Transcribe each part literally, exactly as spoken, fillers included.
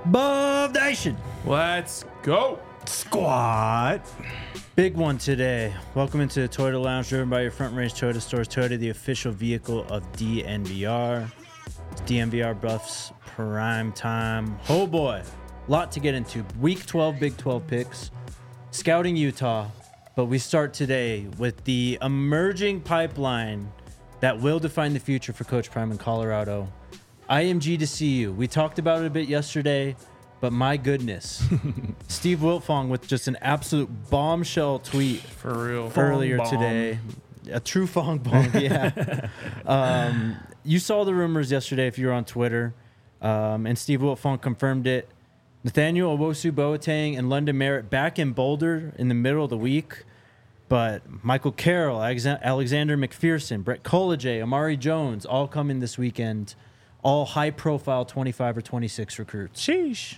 Buff Nation. Let's go. Squad. Big one today. Welcome into the Toyota Lounge, driven by your Front Range Toyota stores. Toyota, the official vehicle of D N V R. It's D N V R Buffs prime time. Oh boy, lot to get into. Week twelve, Big twelve picks. Scouting Utah. But we start today with the emerging pipeline that will define the future for Coach Prime in Colorado. I M G to C U. We talked about it a bit yesterday, but my goodness. Steve Wiltfong with just an absolute bombshell tweet For real. earlier Fong bomb. today. A true Fong bomb, yeah. um, you saw the rumors yesterday if you were on Twitter, um, and Steve Wiltfong confirmed it. Nathaniel Owosu Boateng and London Merritt back in Boulder in the middle of the week. But Michael Carroll, Alexander McPherson, Brett Collegier, Amari Jones, all coming this weekend. All high-profile twenty-five or twenty-six recruits. Sheesh.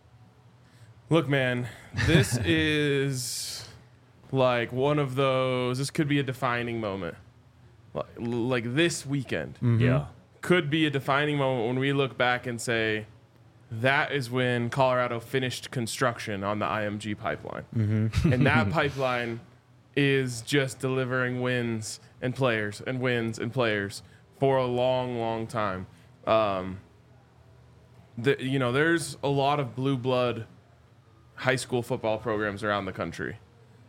Look, man, this is like one of those. This could be a defining moment. Like, like this weekend Mm-hmm. Yeah. could be a defining moment when we look back and say, that is when Colorado finished construction on the I M G pipeline. Mm-hmm. And that pipeline is just delivering wins and players and wins and players for a long, long time. Um, the, you know, there's a lot of blue blood high school football programs around the country.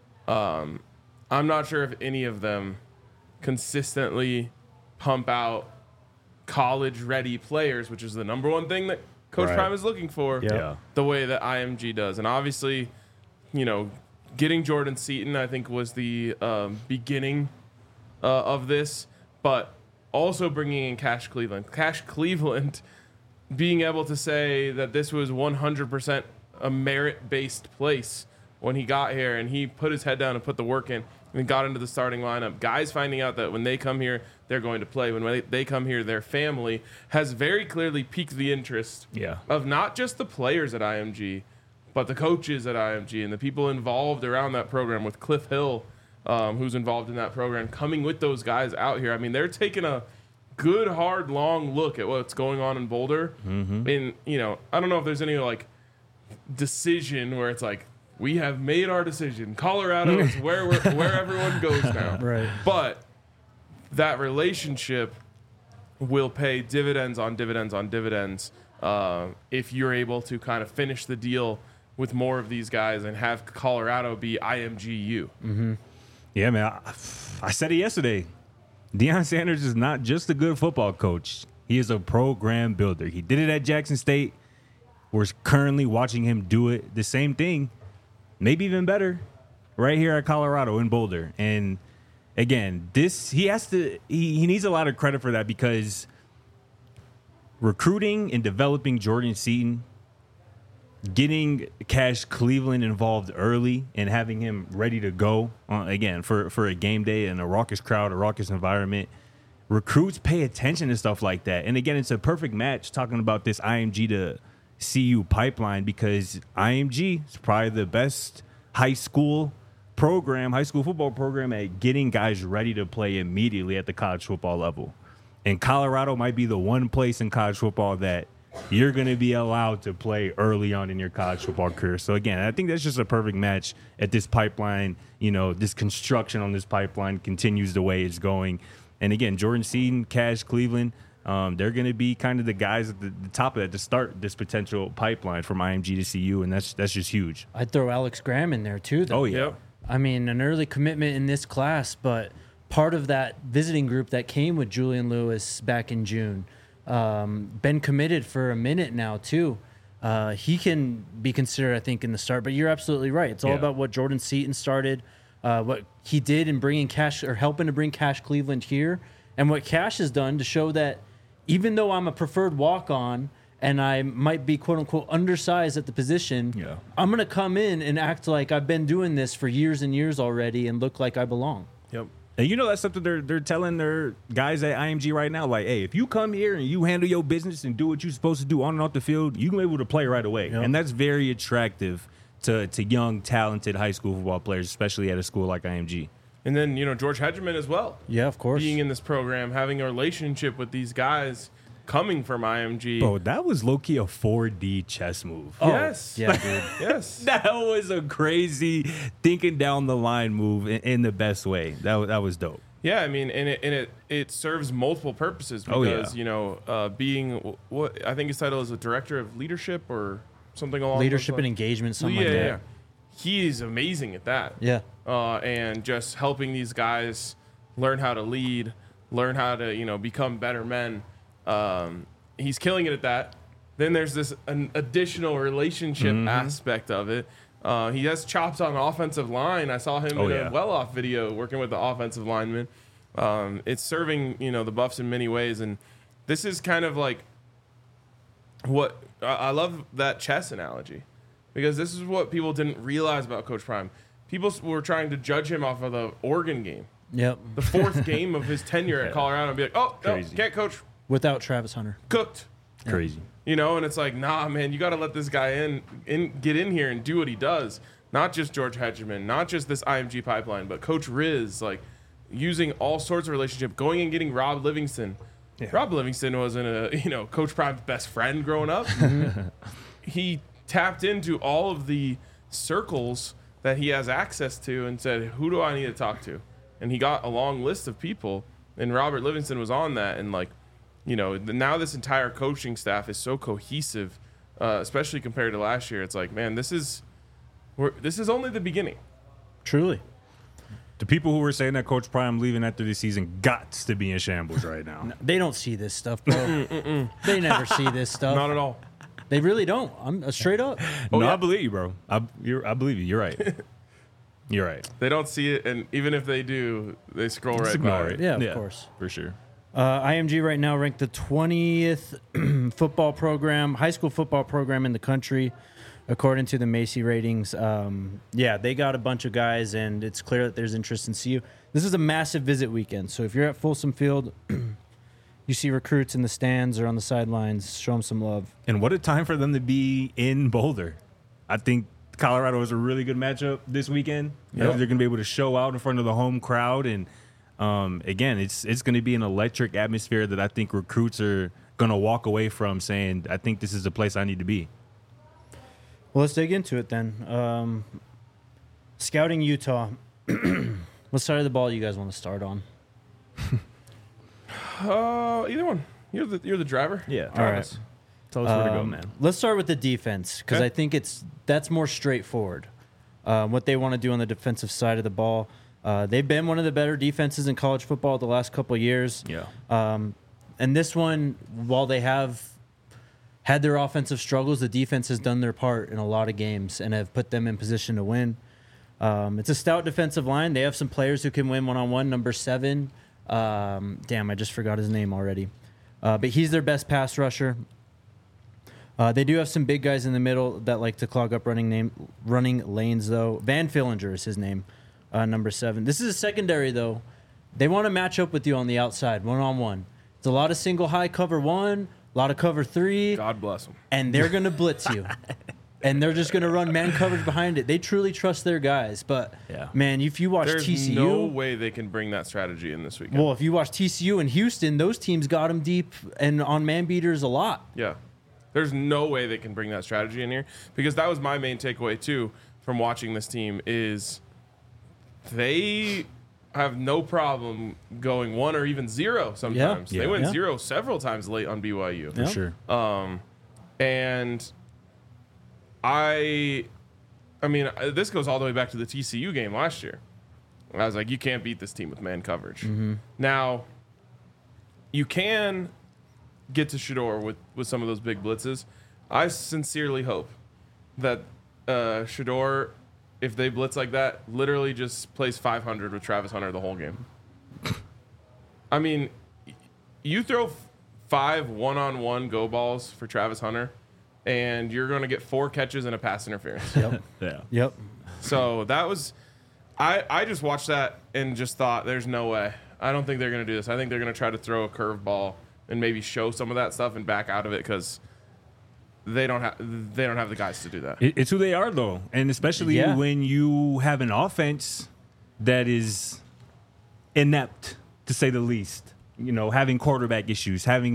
Um, I'm not sure if any of them consistently pump out college-ready players, which is the number one thing that Coach Right. Prime is looking for, Yep. Yeah. the way that I M G does. And obviously, you know, getting Jordan Seaton, I think, was the um, beginning uh, of this, but also bringing in Cash Cleveland. Cash Cleveland being able to say that this was one hundred percent a merit-based place when he got here, and he put his head down and put the work in and got into the starting lineup. Guys finding out that when they come here, they're going to play. When they, they come here, their family has very clearly piqued the interest Yeah. of not just the players at I M G, but the coaches at I M G and the people involved around that program, with Cliff Hill, um, who's involved in that program, coming with those guys out here. I mean, they're taking a good, hard, long look at what's going on in Boulder. Mm-hmm. And, you know, I don't know if there's any, like, decision where it's like, we have made our decision. Colorado is where we're, where everyone goes now. Right. But that relationship will pay dividends on dividends on dividends uh, if you're able to kind of finish the deal with more of these guys and have Colorado be I M G U. Mm-hmm. Yeah, man. I, I said it yesterday. Deion Sanders is not just a good football coach. He is a program builder. He did it at Jackson State. We're currently watching him do it. The same thing, maybe even better, right here at Colorado in Boulder. And again, this he has to he, he needs a lot of credit for that, because recruiting and developing Jordan Seaton, getting Cash Cleveland involved early and having him ready to go uh, again for, for a game day and a raucous crowd, a raucous environment. Recruits pay attention to stuff like that. And again, it's a perfect match talking about this I M G to C U pipeline, because I M G is probably the best high school program, high school football program at getting guys ready to play immediately at the college football level. And Colorado might be the one place in college football that you're going to be allowed to play early on in your college football career. So again, I think that's just a perfect match at this pipeline. You know, this construction on this pipeline continues the way it's going. And again, Jordan Seaton, Cash Cleveland, Um, they're going to be kind of the guys at the, the top of it to start this potential pipeline from I M G to C U, and that's that's just huge. I'd throw Alex Graham in there, too, though. Oh, yeah. Yep. I mean, an early commitment in this class, but part of that visiting group that came with Julian Lewis back in June. Um, been committed for a minute now, too. Uh, he can be considered, I think, in the start. But you're absolutely right. It's all Yeah. about what Jordan Seaton started, uh, what he did in bringing Cash or helping to bring Cash Cleveland here, and what Cash has done to show that even though I'm a preferred walk-on and I might be, quote-unquote, undersized at the position, Yeah. I'm going to come in and act like I've been doing this for years and years already and look like I belong. Yep. And you know that's something they're they're telling their guys at I M G right now. Like, hey, if you come here and you handle your business and do what you're supposed to do on and off the field, you can be able to play right away. Yep. And that's very attractive to to young, talented high school football players, especially at a school like I M G. And then, you know, George Hedgerman as well. Yeah, of course. Being in this program, having a relationship with these guys coming from I M G. Bro, that was low-key a four D chess move. Oh, Yes. Yeah, dude. Yes. That was a crazy thinking down the line move in, in the best way. That, wa- that was dope. Yeah, I mean, and it and it, it serves multiple purposes because Oh, yeah. you know, uh, being what I think his title is a director of leadership or something along Leadership those and lines. engagement, something yeah, like yeah, that. yeah. He's amazing at that. Yeah. uh, and just helping these guys learn how to lead, learn how to you know become better men. Um, he's killing it at that. Then there's this an additional relationship Mm-hmm. aspect of it. Uh, he has chops on offensive line. I saw him Oh, in yeah. a well-off video working with the offensive lineman. Um, it's serving you know the Buffs in many ways, and this is kind of like what I I love that chess analogy because this is what people didn't realize about Coach Prime. People s- were trying to judge him off of the Oregon game, Yep. the fourth game of his tenure at Colorado, and be like, "Oh, no, Crazy. can't coach, Without Travis Hunter. cooked." Crazy. You know, and it's like, nah, man, you got to let this guy in, in, get in here and do what he does. Not just George Hedgeman, not just this I M G pipeline, but Coach Riz, like using all sorts of relationship, going and getting Rob Livingston. Yeah. Rob Livingston wasn't a, you know, Coach Prime's best friend growing up. He tapped into all of the circles that he has access to and said, who do I need to talk to? And he got a long list of people, and Robert Livingston was on that, and like, you know, the, now this entire coaching staff is so cohesive, uh, especially compared to last year. It's like, man, this is we're, this is only the beginning. Truly. The people who were saying that Coach Prime leaving after this season got to be in shambles right now. They don't see this stuff, bro. They never see this stuff. Not at all. They really don't. I'm uh, straight up. no, yeah. I believe you, bro. I, you're, I believe you. You're right. You're right. They don't see it, and even if they do, they scroll Just right ignore by it. Yeah, of course. For sure. Uh, I M G right now ranked the twentieth football program, high school football program in the country, according to the Macy ratings. Um, yeah, they got a bunch of guys, and it's clear that there's interest in C U. This is a massive visit weekend, so if you're at Folsom Field, you see recruits in the stands or on the sidelines, show them some love. And what a time for them to be in Boulder. I think Colorado is a really good matchup this weekend. I Yep. think they're going to be able to show out in front of the home crowd. And um, again, it's it's going to be an electric atmosphere that I think recruits are going to walk away from saying, I think this is the place I need to be. Well, let's dig into it then. Um, scouting Utah. What side of the ball you guys want to start on? Uh, either one. You're the you're the driver. Yeah. All right. Tell us where to go, Um, man. Let's start with the defense because Okay. I think it's that's more straightforward. Uh, what they want to do on the defensive side of the ball. Uh, they've been one of the better defenses in college football the last couple of years. Yeah. Um, and this one, while they have had their offensive struggles, the defense has done their part in a lot of games and have put them in position to win. Um, it's a stout defensive line. They have some players who can win one-on-one. Number seven, um, damn, I just forgot his name already. Uh, but he's their best pass rusher. Uh, they do have some big guys in the middle that like to clog up running name, running lanes, though. Van Fillinger is his name, uh, number seven. This is a secondary, though. They want to match up with you on the outside, one-on-one. It's a lot of single high cover one, a lot of cover three, God bless them. and they're going to blitz you. And they're just going to run man coverage behind it. They truly trust their guys. But, Yeah. man, if you watch There's T C U... no way they can bring that strategy in this weekend. Well, if you watch T C U and Houston, those teams got them deep and on man beaters a lot. Yeah. There's no way they can bring that strategy in here because that was my main takeaway too from watching this team is they have no problem going one or even zero sometimes. Yeah. They went Yeah. zero several times late on B Y U. For Yeah. sure. Um, and I, I mean, uh, this goes all the way back to the T C U game last year. I was like, you can't beat this team with man coverage. Now, you can get to Shador with, with some of those big blitzes. I sincerely hope that uh, Shador, if they blitz like that, literally just plays five hundred with Travis Hunter the whole game. I mean, y- you throw f- five one-on-one go balls for Travis Hunter, and you're going to get four catches and a pass interference. Yep. Yeah. Yep. So that was, I, I just watched that and just thought, there's no way. I don't think they're going to do this. I think they're going to try to throw a curveball and maybe show some of that stuff and back out of it because they don't have they don't have the guys to do that. It, it's who they are, though. And especially Yeah. when you have an offense that is inept, to say the least. You know, having quarterback issues, having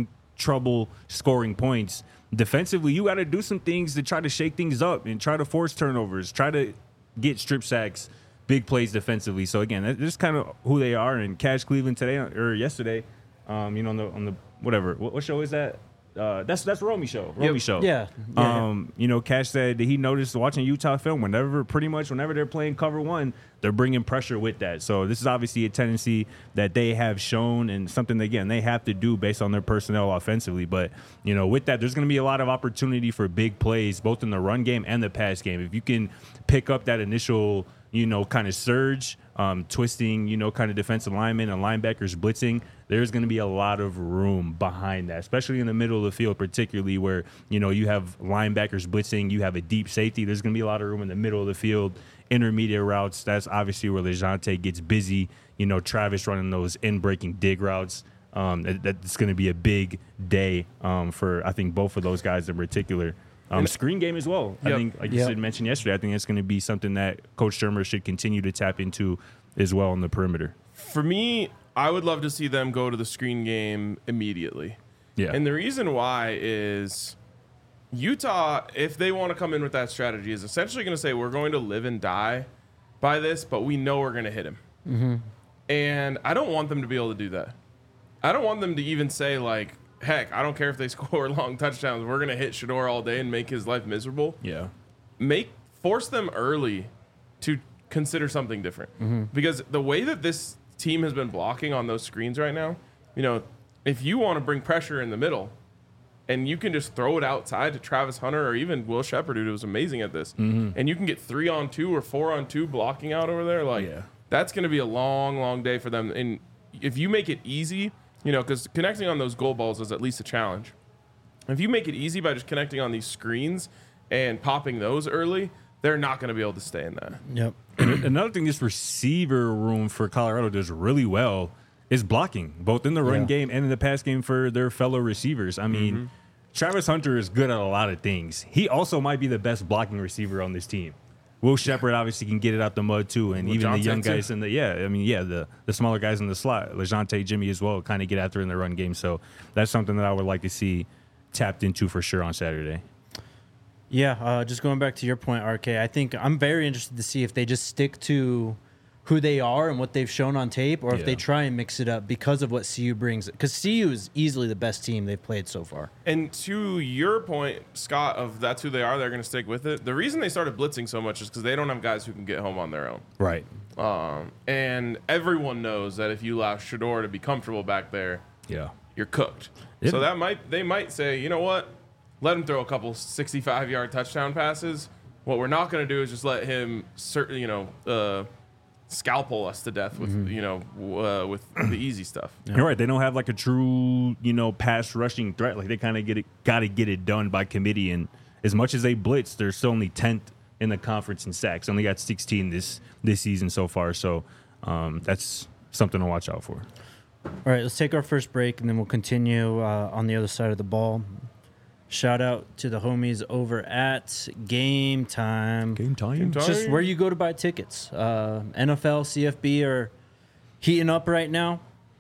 trouble scoring points. Defensively, you got to do some things to try to shake things up and try to force turnovers, try to get strip sacks, big plays defensively. So again, that's just kind of who they are. And Cash Cleveland today or yesterday, um, you know, on the on the whatever, what, what show is that? Uh, that's that's Romy show. Romy Yep. show. Yeah. Yeah, Um, you know, Cash said that he noticed watching Utah film whenever, pretty much whenever they're playing cover one, they're bringing pressure with that. So this is obviously a tendency that they have shown and something that, again, they have to do based on their personnel offensively. But you know, with that, there's going to be a lot of opportunity for big plays, both in the run game and the pass game. If you can pick up that initial, you know, kind of surge, um, twisting, you know, kind of defensive linemen and linebackers blitzing, there's going to be a lot of room behind that, especially in the middle of the field, particularly where, you know, you have linebackers blitzing, you have a deep safety. There's going to be a lot of room in the middle of the field, intermediate routes. That's obviously where LeJounte gets busy. You know, Travis running those in-breaking dig routes. Um, that, that's going to be a big day um, for, I think, both of those guys in particular. Um, screen game as well. Yep. I think, like you Yep. said, mentioned yesterday, I think that's going to be something that Coach Shermer should continue to tap into as well on the perimeter. For me, I would love to see them go to the screen game immediately. Yeah. And the reason why is Utah, if they want to come in with that strategy, is essentially going to say, we're going to live and die by this, but we know we're going to hit him. Mm-hmm. And I don't want them to be able to do that. I don't want them to even say, like, heck, I don't care if they score long touchdowns. We're going to hit Shador all day and make his life miserable. Yeah. Make force them early to consider something different. Mm-hmm. Because the way that this team has been blocking on those screens right now, you know, if you want to bring pressure in the middle and you can just throw it outside to Travis Hunter or even Will Shepard, who was amazing at this, Mm-hmm. and you can get three on two or four on two blocking out over there, like Yeah. that's going to be a long, long day for them. And if you make it easy, you know, because connecting on those goal balls is at least a challenge. If you make it easy by just connecting on these screens and popping those early, they're not going to be able to stay in that. Yep. And another thing this receiver room for Colorado does really well is blocking, both in the run Yeah. game and in the pass game for their fellow receivers. I mean, Mm-hmm. Travis Hunter is good at a lot of things. He also might be the best blocking receiver on this team. Will Shepard obviously can get it out the mud too, and even the LeJounte young too. guys in the yeah, I mean yeah, the the smaller guys in the slot, LeJounte, Jimmy as well, kind of get after in the run game. So that's something that I would like to see tapped into for sure on Saturday. Yeah, uh, just going back to your point, R K, I think I'm very interested to see if they just stick to who they are and what they've shown on tape, or if Yeah. they try and mix it up because of what C U brings. Because C U is easily the best team they've played so far. And to your point, Scott, of that's who they are, they're going to stick with it. The reason they started blitzing so much is because they don't have guys who can get home on their own. Right. Um, and everyone knows that if you allow Shador to be comfortable back there, Yeah. you're cooked. It- So that might they might say, you know what, let him throw a couple sixty-five yard touchdown passes. What we're not going to do is just let him, certain, you know, uh, scalpel us to death with Mm-hmm. you know uh, with the easy stuff. You're right. They don't have like a true, you know, pass rushing threat. Like they kind of get it, got to get it done by committee. And as much as they blitz, they're still only tenth in the conference in sacks. Only got sixteen this this season so far. So um, that's something to watch out for. All right, let's take our first break, and then we'll continue uh, on the other side of the ball. Shout out to the homies over at Game Time. Game time. Game time. Just where you go to buy tickets. Uh, N F L, C F B are heating up right now.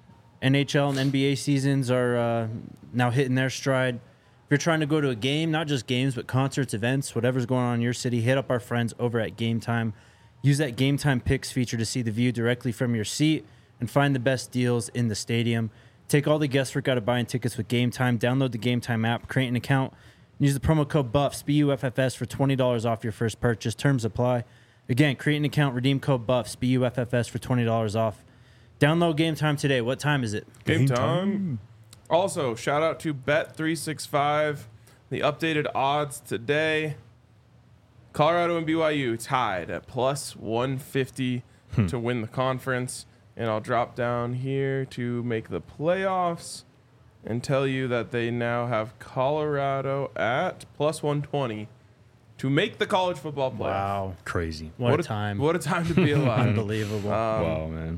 N H L and N B A seasons are uh, now hitting their stride. If you're trying to go to a game, not just games, but concerts, events, whatever's going on in your city, hit up our friends over at Game Time. Use that Game Time Picks feature to see the view directly from your seat and find the best deals in the stadium. Take all the guesswork out of buying tickets with Game Time. Download the Game Time app, create an account, and use the promo code BUFFS, B U F F S, for twenty dollars off your first purchase. Terms apply. Again, create an account, redeem code BUFFS, B U F F S, for twenty dollars off. Download Game Time today. What time is it? Game, Game time. time. Also, shout out to Bet three sixty-five. The updated odds today. Colorado and B Y U tied at plus one fifty to win the conference. And I'll drop down here to make the playoffs and tell you that they now have Colorado at plus one twenty to make the college football playoff. Wow. Crazy. What, What a time. What a time to be alive. Unbelievable. wow, man.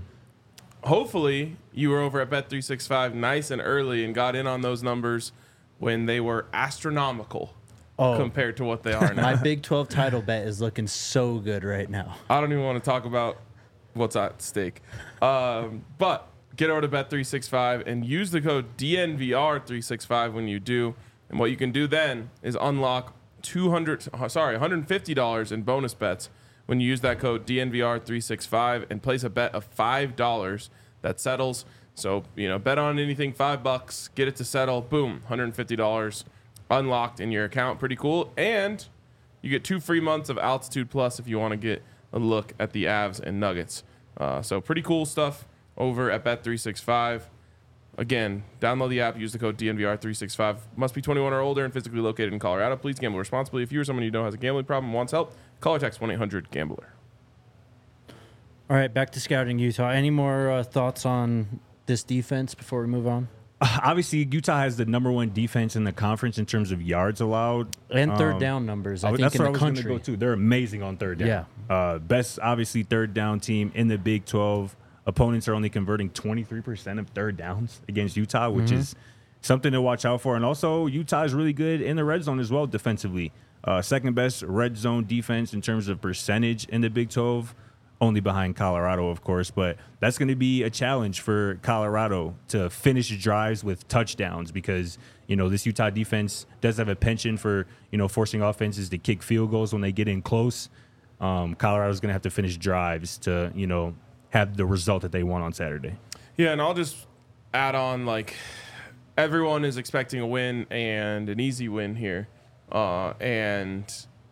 Hopefully you were over at Bet three sixty-five nice and early and got in on those numbers when they were astronomical oh, compared to what they are now. my Big twelve title bet is looking so good right now. I don't even want to talk about what's at stake. Um, but get over to Bet three sixty-five and use the code D N V R three sixty-five when you do. And what you can do then is unlock two hundred, sorry, one hundred fifty dollars in bonus bets when you use that code D N V R three sixty-five and place a bet of five dollars that settles. So, you know, bet on anything, five bucks, get it to settle, boom, one hundred fifty dollars unlocked in your account. Pretty cool. And you get two free months of Altitude Plus if you want to get a look at the Avs and Nuggets. Uh, so pretty cool stuff over at Bet three sixty-five. Again, download the app, use the code D N V R three sixty-five. Must be twenty-one or older and physically located in Colorado. Please gamble responsibly. If you or someone you know has a gambling problem and wants help, call or text one eight hundred gambler. All right, back to scouting Utah. Any more uh, thoughts on this defense before we move on? Obviously, Utah has the number one defense in the conference in terms of yards allowed. And third Um, down numbers, I think, that's in where the I was going to country. go to. They're amazing on third down. Yeah. Uh, best, obviously, third down team in the Big twelve. Opponents are only converting twenty-three percent of third downs against Utah, which Mm-hmm. is something to watch out for. And also, Utah is really good in the red zone as well defensively. Uh, second best red zone defense in terms of percentage in the Big twelve, only behind Colorado, of course. But that's going to be a challenge for Colorado to finish drives with touchdowns because, you know, this Utah defense does have a penchant for, you know, forcing offenses to kick field goals when they get in close. Um, Colorado's going to have to finish drives to, you know, have the result that they want on Saturday. Yeah, and I'll just add on, like, everyone is expecting a win and an easy win here. Uh, and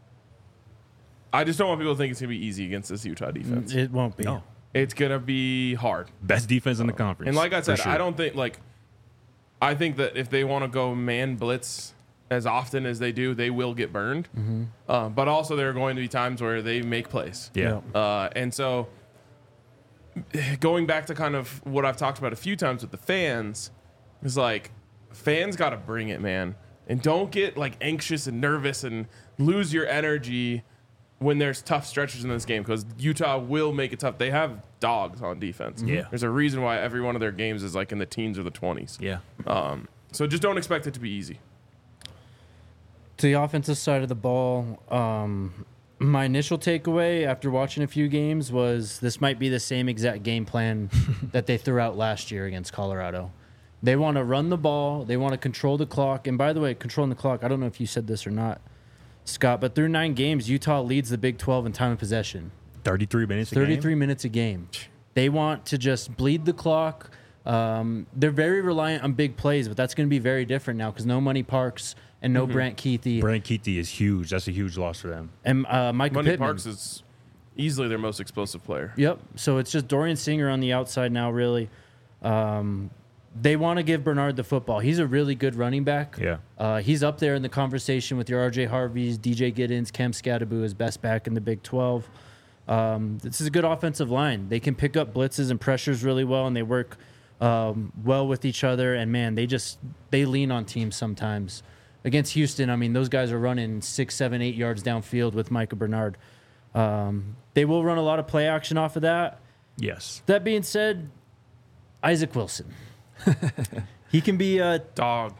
I just don't want people to think it's going to be easy against this Utah defense. It won't be. No. It's going to be hard. Best defense in the conference. And like I said, for sure. I don't think, like, I think that if they want to go man blitz as often as they do, they will get burned. Mm-hmm. Uh, but also there are going to be times where they make plays. Yeah. Uh, and so going back to kind of what I've talked about a few times with the fans is like fans got to bring it, man. And don't get like anxious and nervous and lose your energy when there's tough stretches in this game because Utah will make it tough. They have dogs on defense. Yeah. There's a reason why every one of their games is like in the teens or the twenties. Yeah. Um, so just don't expect it to be easy. To the offensive side of the ball, um, my initial takeaway after watching a few games was this might be the same exact game plan that they threw out last year against Colorado. They want to run the ball. They want to control the clock. And by the way, controlling the clock, I don't know if you said this or not, Scott, but through nine games, Utah leads the Big twelve in time of possession. thirty-three minutes a thirty-three game? minutes a game. They want to just bleed the clock. Um, they're very reliant on big plays, but that's going to be very different now because no Money Parks and no Mm-hmm. Brant Keithy. Brent Keithy is huge. That's a huge loss for them. And uh, Micah Money Pittman. Parks is easily their most explosive player. Yep. So it's just Dorian Singer on the outside now, really. Um, they want to give Bernard the football. He's a really good running back. Yeah. Uh, he's up there in the conversation with your R J Harveys, D J Giddens, Cam Scadaboo as best back in the Big twelve. Um, this is a good offensive line. They can pick up blitzes and pressures really well, and they work um, well with each other. And, man, they just they lean on teams sometimes. Against Houston, I mean, those guys are running six, seven, eight yards downfield with Micah Bernard. Um, they will run a lot of play action off of that. Yes. That being said, Isaac Wilson. he can be uh, Dog.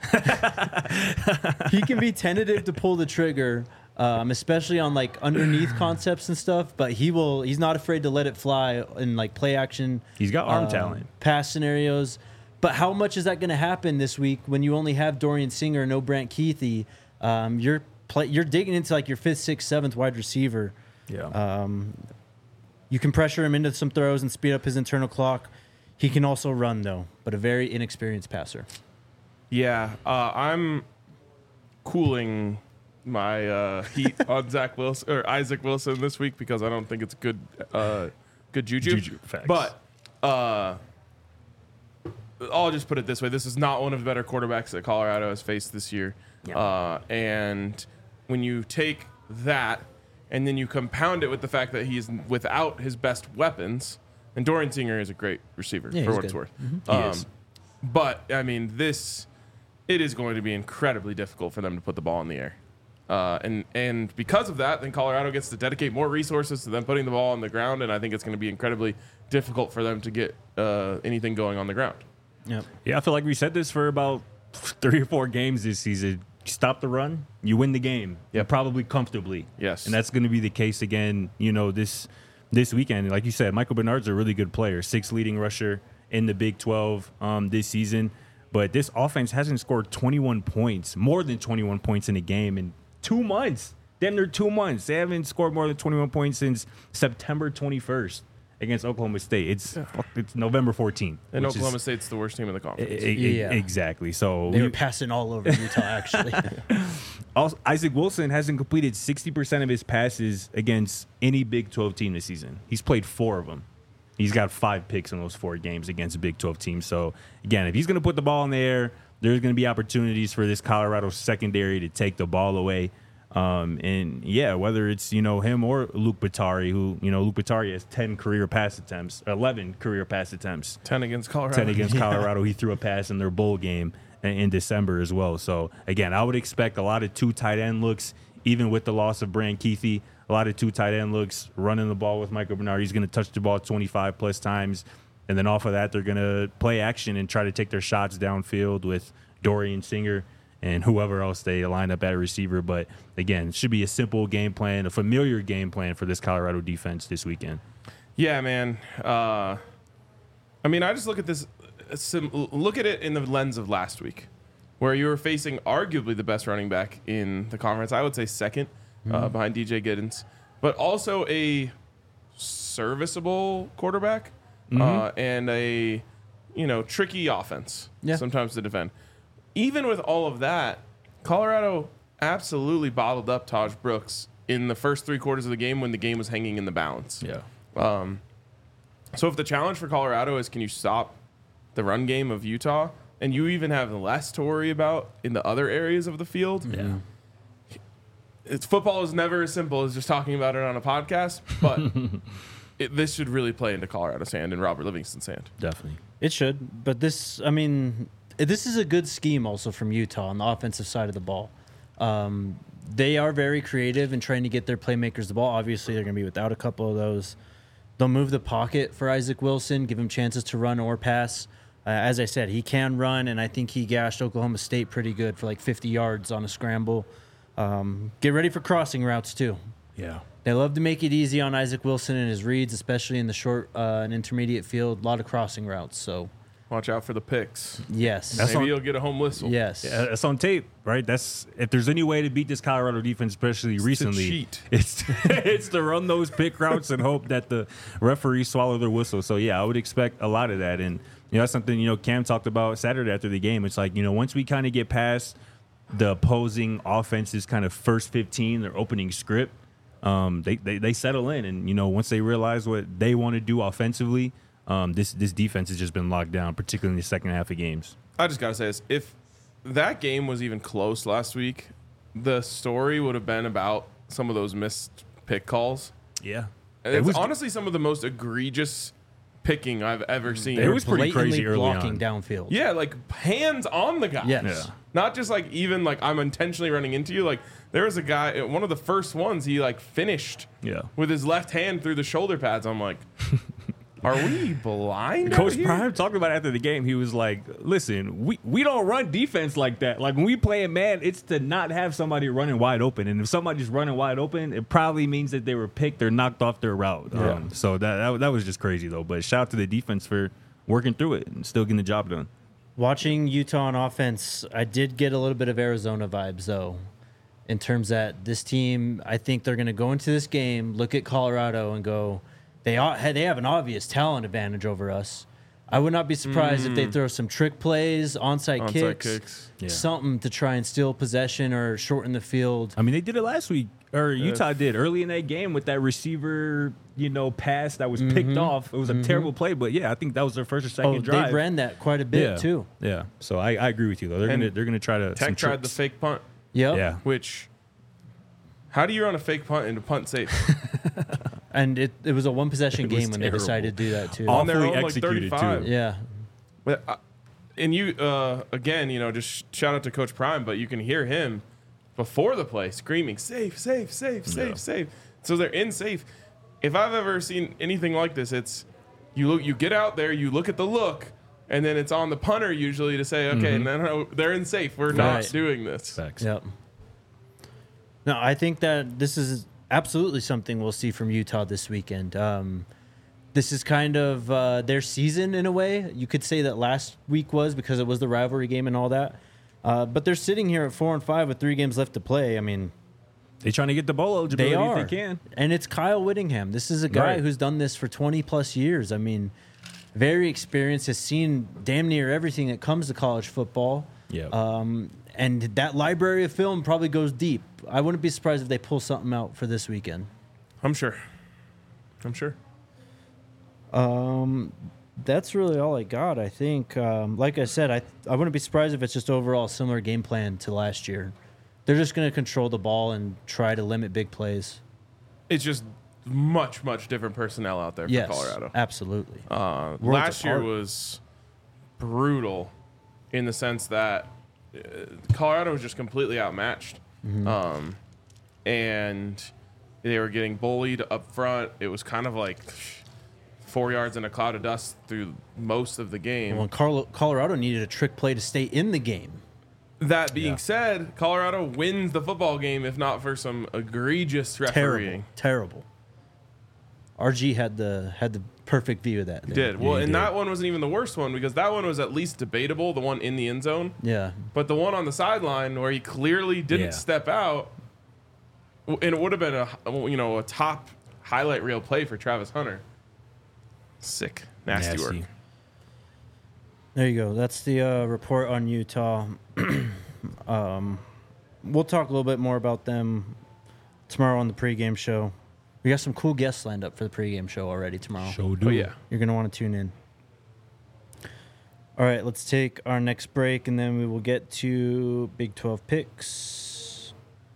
he can be tentative to pull the trigger, um, especially on like underneath concepts and stuff. But he will. He's not afraid to let it fly in like play action. He's got arm uh, talent. pass scenarios. But how much is that going to happen this week when you only have Dorian Singer, no Brant Keithy? Um, you're play, you're digging into like your fifth, sixth, seventh wide receiver. Yeah. Um, you can pressure him into some throws and speed up his internal clock. He can also run, though, but a very inexperienced passer. Yeah, uh, I'm cooling my uh, heat on Zach Wilson or Isaac Wilson this week because I don't think it's good, uh, good juju. Juju, facts. But uh, I'll just put it this way: this is not one of the better quarterbacks that Colorado has faced this year. Yeah. Uh, and when you take that and then you compound it with the fact that he's without his best weapons. And Dorian Singer is a great receiver Yeah, for he's what it's good. worth. He Um, is. But, I mean, this, it is going to be incredibly difficult for them to put the ball in the air. Uh, and, and because of that, then Colorado gets to dedicate more resources to them putting the ball on the ground. And I think it's going to be incredibly difficult for them to get uh, anything going on the ground. Yep. Yeah, I feel like we said this for about three or four games this season. You stop the run, you win the game. Yep. Probably comfortably. Yes. And that's going to be the case again, you know, this this weekend. Like you said, Michael Bernard's a really good player. Sixth leading rusher in the Big twelve um, this season. But this offense hasn't scored twenty-one points, more than twenty-one points in a game in two months. Damn, they're two months. They haven't scored more than twenty-one points since September twenty-first against Oklahoma State. It's it's November fourteenth. And Oklahoma is, State's the worst team in the conference. I, I, Yeah. Exactly. So They we, were passing all over Utah, actually. also, Isaac Wilson hasn't completed sixty percent of his passes against any Big twelve team this season. He's played four of them. He's got five picks in those four games against a Big twelve team. So, again, if he's going to put the ball in the air, there's going to be opportunities for this Colorado secondary to take the ball away. Um, and, yeah, whether it's, you know, him or Luke Batari, who, you know, Luke Batari has ten career pass attempts, eleven career pass attempts. ten against Colorado. ten against Colorado. He threw a pass in their bowl game in, in December as well. So, again, I would expect a lot of two tight end looks, even with the loss of Brand Keithy. A lot of two tight end looks, running the ball with Michael Bernard. He's going to touch the ball twenty-five plus times. And then off of that, they're going to play action and try to take their shots downfield with Dorian Singer and whoever else they line up at a receiver. But, again, it should be a simple game plan, a familiar game plan for this Colorado defense this weekend. Yeah, man. Uh, I mean, I just look at this, look at it in the lens of last week, where you were facing arguably the best running back in the conference. I would say second. Mm-hmm. Uh, behind D J Giddens, but also a serviceable quarterback Mm-hmm. uh, and a you know tricky offense Yeah. sometimes to defend. Even with all of that, Colorado absolutely bottled up Taj Brooks in the first three quarters of the game when the game was hanging in the balance. Yeah. Um, so if the challenge for Colorado is can you stop the run game of Utah, and you even have less to worry about in the other areas of the field. Yeah. It's football is never as simple as just talking about it on a podcast, but it, this should really play into Colorado's hand and Robert Livingston's hand. Definitely. It should, but this, I mean, this is a good scheme also from Utah on the offensive side of the ball. Um, they are very creative in trying to get their playmakers the ball. Obviously, they're going to be without a couple of those. They'll move the pocket for Isaac Wilson, give him chances to run or pass. Uh, as I said, he can run, and I think he gashed Oklahoma State pretty good for like fifty yards on a scramble. Um, get ready for crossing routes, too. Yeah. They love to make it easy on Isaac Wilson and his reads, especially in the short uh, and intermediate field. A lot of crossing routes, so Watch out for the picks. yes. That's Maybe on- you'll get a home whistle. Yes. Yeah, it's on tape, right? That's if there's any way to beat this Colorado defense, especially to recently, cheat. it's it's to run those pick routes and hope that the referees swallow their whistle. So yeah, I would expect a lot of that, and you know that's something you know Cam talked about Saturday after the game. It's like you know once we kind of get past the opposing offense's kind of first fifteen, their opening script, um, they, they they settle in, and you know once they realize what they want to do offensively. Um, this this defense has just been locked down, particularly in the second half of games. I just got to say this. If that game was even close last week, the story would have been about some of those missed pick calls. Yeah, And It it's was- honestly some of the most egregious picking I've ever seen. It was pretty Blatantly crazy early blocking on. downfield. Yeah, like hands on the guy. Yes. Yeah. Not just like even like I'm intentionally running into you. Like there was a guy, one of the first ones, he like finished Yeah. with his left hand through the shoulder pads. I'm like, are we blind? Coach out here? Prime talked about it after the game. He was like, listen, we, we don't run defense like that. Like, when we play a man, it's to not have somebody running wide open. And if somebody's running wide open, it probably means that they were picked or knocked off their route. Yeah. Um, so that, that that was just crazy, though. But shout out to the defense for working through it and still getting the job done. Watching Utah on offense, I did get a little bit of Arizona vibes, though, in terms that this team, I think they're going to go into this game, look at Colorado, and go, they are, they have an obvious talent advantage over us. I would not be surprised if they throw some trick plays, onside, Onside kicks, kicks. Yeah. something to try and steal possession or shorten the field. I mean, they did it last week, or Utah did early in that game with that receiver, you know, pass that was picked off. It was a terrible play, but yeah, I think that was their first or second Oh, drive. they ran that quite a bit, yeah. too. Yeah. So I, I agree with you, though. They're And going to they're gonna try to. some Tech tried the tricks. fake punt, Yep. Yeah. which how do you run a fake punt into punt safe? And it, it was a one possession It was game when terrible. they decided to do that, too. On their Awfully own, like executed, thirty-five. too. Yeah. But, uh, and you, uh, again, you know, just shout out to Coach Prime, but you can hear him before the play screaming, safe, safe, safe, safe, Yeah. safe. So they're in safe. If I've ever seen anything like this, it's you look, you get out there, you look at the look, and then it's on the punter usually to say, okay, no, no, they're in safe. We're not Right. doing this. Facts. Yep. No, I think that this is absolutely something we'll see from Utah this weekend. Um, this is kind of uh, their season in a way. You could say that last week was because it was the rivalry game and all that. Uh, but they're sitting here at four and five with three games left to play. I mean, They're trying to get the bowl eligibility they are. if they can. And it's Kyle Whittingham. This is a guy Right. who's done this for twenty plus years. I mean, very experienced, has seen damn near everything that comes to college football. Yeah. Um, and that library of film probably goes deep. I wouldn't be surprised if they pull something out for this weekend. I'm sure. I'm sure. Um, that's really all I got. I think, um, like I said, I I wouldn't be surprised if it's just overall a similar game plan to last year. They're just going to control the ball and try to limit big plays. It's just much, much different personnel out there for Yes, Colorado. absolutely. Uh, Worlds last year apart. was brutal in the sense that uh, Colorado was just completely outmatched. Mm-hmm. Um, and they were getting bullied up front. It was kind of like four yards in a cloud of dust through most of the game. Well, Carlo- Colorado needed a trick play to stay in the game. That being Yeah. said, Colorado wins the football game if not for some egregious refereeing. Terrible, terrible. R G had the had the perfect view of that. He there. did. Well, he and did. that one wasn't even the worst one because that one was at least debatable, the one in the end zone. Yeah. But the one on the sideline where he clearly didn't Yeah. step out, w- and it would have been a you know a top highlight reel play for Travis Hunter. Sick, nasty, Nasty. work. There you go. That's the uh, report on Utah. um, we'll talk a little bit more about them tomorrow on the pregame show. We got some cool guests lined up for the pregame show already tomorrow. Show do. Oh yeah, You're going to want to tune in. All right, let's take our next break, and then we will get to Big twelve picks.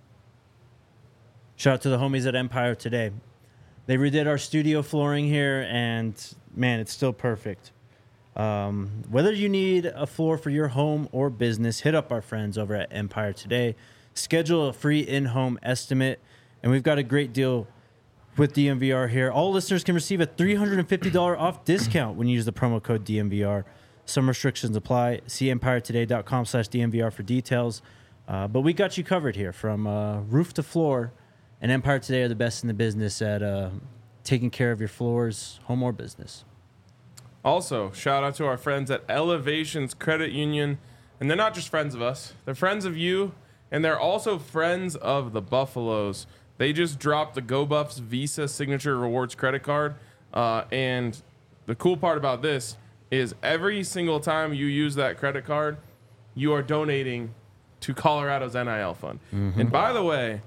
Shout out to the homies at Empire today. They redid our studio flooring here, and man, it's still perfect. Um, whether you need a floor for your home or business, hit up our friends over at Empire today. Schedule a free in-home estimate, and we've got a great deal with D M V R here. All listeners can receive a three hundred fifty dollars off discount when you use the promo code D M V R. Some restrictions apply. See empire today dot com slash D M V R for details. Uh, but we got you covered here from uh, roof to floor. And Empire Today are the best in the business at uh, taking care of your floors, home or business. Also, shout out to our friends at Elevations Credit Union. And they're not just friends of us, they're friends of you, and they're also friends of the Buffaloes. They just dropped the GoBuffs Visa Signature Rewards credit card. Uh, and the cool part about this is every single time you use that credit card, you are donating to Colorado's N I L fund. Mm-hmm. And by the way,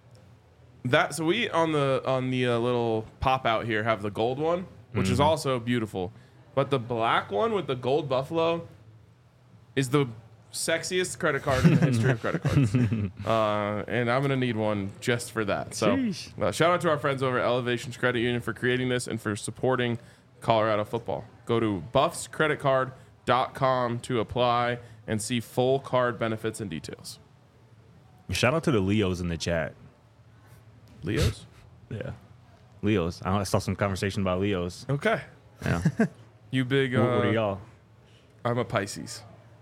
that so we on the on the uh, little pop out here have the gold one, which is also beautiful. But the black one with the gold buffalo is the sexiest credit card in the history of credit cards. Uh, and I'm going to need one just for that. So uh, shout out to our friends over at Elevations Credit Union for creating this and for supporting Colorado football. Go to buffs credit card dot com to apply and see full card benefits and details. Shout out to the Leos in the chat. Leos? Yeah. Leos. I saw some conversation about Leos. Okay. Yeah. You big, uh, what, what are y'all? I'm a Pisces.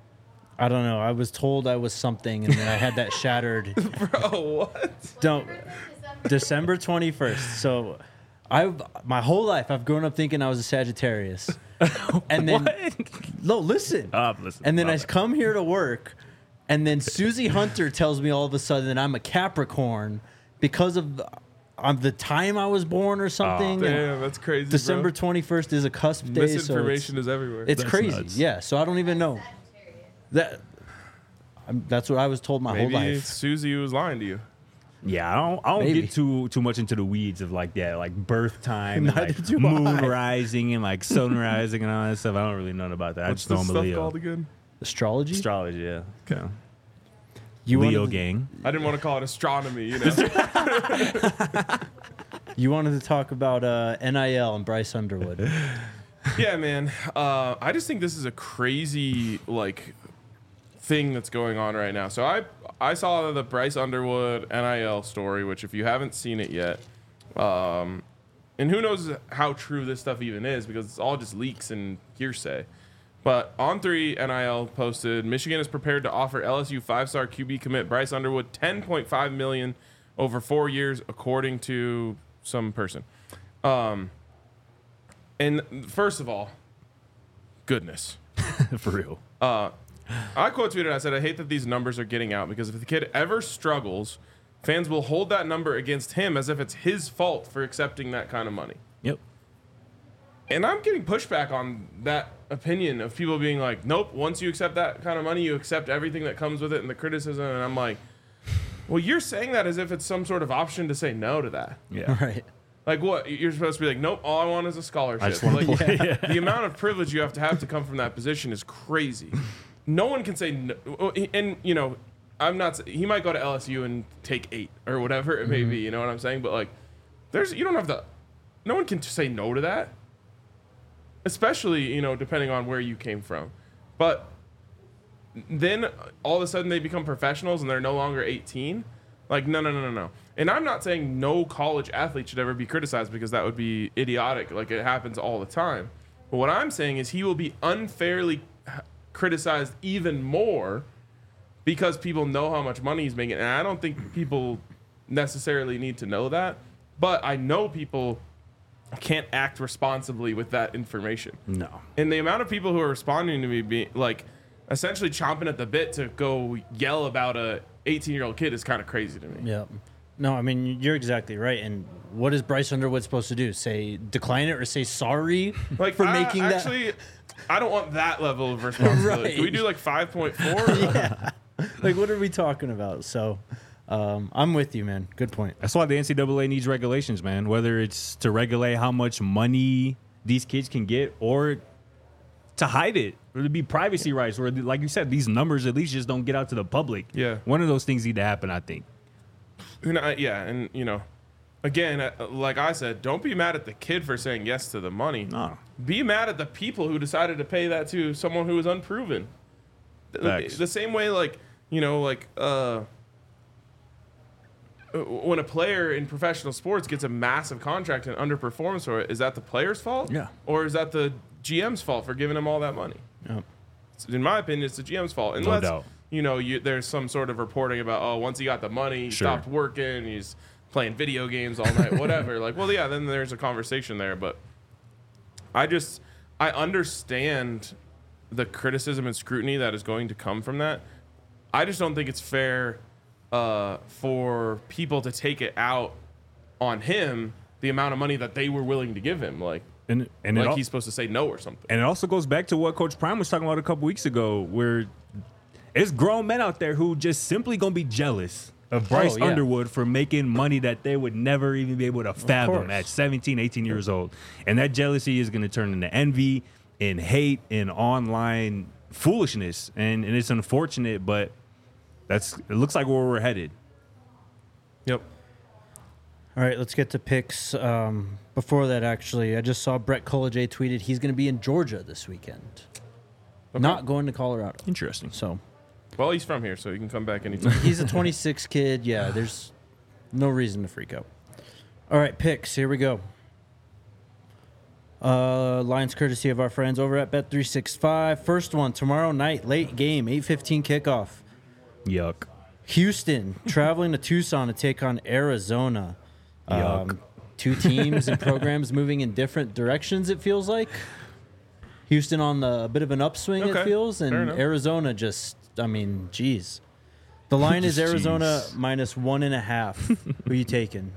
I don't know. I was told I was something, and then I had that shattered. Bro, what? Don't. December twenty-first. So I've my whole life I've grown up thinking I was a Sagittarius. And then no, listen. Uh, listen. And then I Love it. come here to work, and then Susie Hunter tells me all of a sudden that I'm a Capricorn because of the, of the time I was born or something. And Damn, that's crazy. December bro. twenty-first is a cusp day. So Misinformation it's, is everywhere. it's That's crazy. nuts. Yeah. So I don't even know. That I'm, that's what I was told my Maybe whole life. Susie was lying to you. Yeah, I don't, I don't Maybe. get too too much into the weeds of like that, like birth time, and Neither like do moon I. rising and like sun rising and all that stuff. I don't really know about that. I What's just know this I'm a stuff Leo. called again? Astrology. Astrology, yeah. Okay. You Leo wanted to- gang. I didn't want to call it astronomy, you know. You wanted to talk about uh, N I L and Bryce Underwood. Yeah, man. Uh, I just think this is a crazy like thing that's going on right now. So I I saw the Bryce Underwood N I L story, which if you haven't seen it yet, um, and who knows how true this stuff even is because it's all just leaks and hearsay. But On three N I L posted, Michigan is prepared to offer L S U five-star Q B commit Bryce Underwood ten point five million dollars over four years, according to some person. Um, And first of all, goodness. For real. Uh, I quote tweeted, I said, I hate that these numbers are getting out because if the kid ever struggles, fans will hold that number against him as if it's his fault for accepting that kind of money. Yep. And I'm getting pushback on that opinion of people being like, nope, once you accept that kind of money, you accept everything that comes with it and the criticism. And I'm like, well, you're saying that as if it's some sort of option to say no to that. Yeah. Right. Like what? You're supposed to be like, nope, all I want is a scholarship. I just want like, to play. Yeah. The amount of privilege you have to have to come from that position is crazy. No one can say no. And, you know, I'm not, he might go to L S U and take eight or whatever it may Mm-hmm. be, you know what I'm saying? But like, there's, you don't have to, no one can say no to that. Especially, you know, depending on where you came from. But then all of a sudden they become professionals and they're no longer eighteen. Like, no, no, no, no, no. And I'm not saying no college athlete should ever be criticized because that would be idiotic. Like, it happens all the time. But what I'm saying is he will be unfairly criticized even more because people know how much money he's making. And I don't think people necessarily need to know that. But I know people can't act responsibly with that information. No. And the amount of people who are responding to me being like essentially chomping at the bit to go yell about a eighteen year old kid is kind of crazy to me. Yeah. No, I mean, you're exactly right. And what is Bryce Underwood supposed to do? Say decline it or say sorry Like for I, making that? actually, I don't want that level of responsibility. Right. Can we do like five point four? Yeah. Like, what are we talking about? So um, I'm with you, man. Good point. That's why the N C double A needs regulations, man. Whether it's to regulate how much money these kids can get or to hide it, or to be privacy rights, or like you said, these numbers at least just don't get out to the public. Yeah. One of those things need to happen, I think. You know, yeah, and you know, again, uh, like I said, don't be mad at the kid for saying yes to the money. No. Be mad at the people who decided to pay that to someone who was unproven. The, Facts. the same way, like, you know, like uh, when a player in professional sports gets a massive contract and underperforms for it, is that the player's fault? Yeah. Or is that the G M's fault for giving him all that money? Yep. In my opinion, it's the G M's fault. No Unless, doubt. you know, you, there's some sort of reporting about, oh, once he got the money, he Sure. stopped working, he's playing video games all night, whatever. Like, well, yeah, then there's a conversation there. But I just, I understand the criticism and scrutiny that is going to come from that. I just don't think it's fair uh, for people to take it out on him, the amount of money that they were willing to give him. Like, And and it like al- he's supposed to say no or something. And it also goes back to what Coach Prime was talking about a couple weeks ago, where it's grown men out there who just simply gonna be jealous of Bryce Oh, yeah. Underwood for making money that they would never even be able to fathom course. at seventeen, eighteen years old. And that jealousy is gonna turn into envy and hate and online foolishness. And and it's unfortunate, but that's it looks like where we're headed. Yep. All right, let's get to picks. Um, before that, actually, I just saw Brett College tweeted he's going to be in Georgia this weekend. Not going to Colorado. Interesting. So Well, he's from here, so he can come back anytime. he's a twenty-six kid. Yeah, there's no reason to freak out. All right, picks. Here we go. Uh, lines courtesy of our friends over at Bet three sixty-five. First one tomorrow night, late game, eight fifteen kickoff. Yuck. Houston traveling to Tucson to take on Arizona. Yuck. Um, two teams and programs moving in different directions, it feels like. Houston on the a bit of an upswing, Okay, it feels, fair and enough. Arizona just, I mean, geez. The line is Just Arizona jeez. minus one and a half. Who you taking?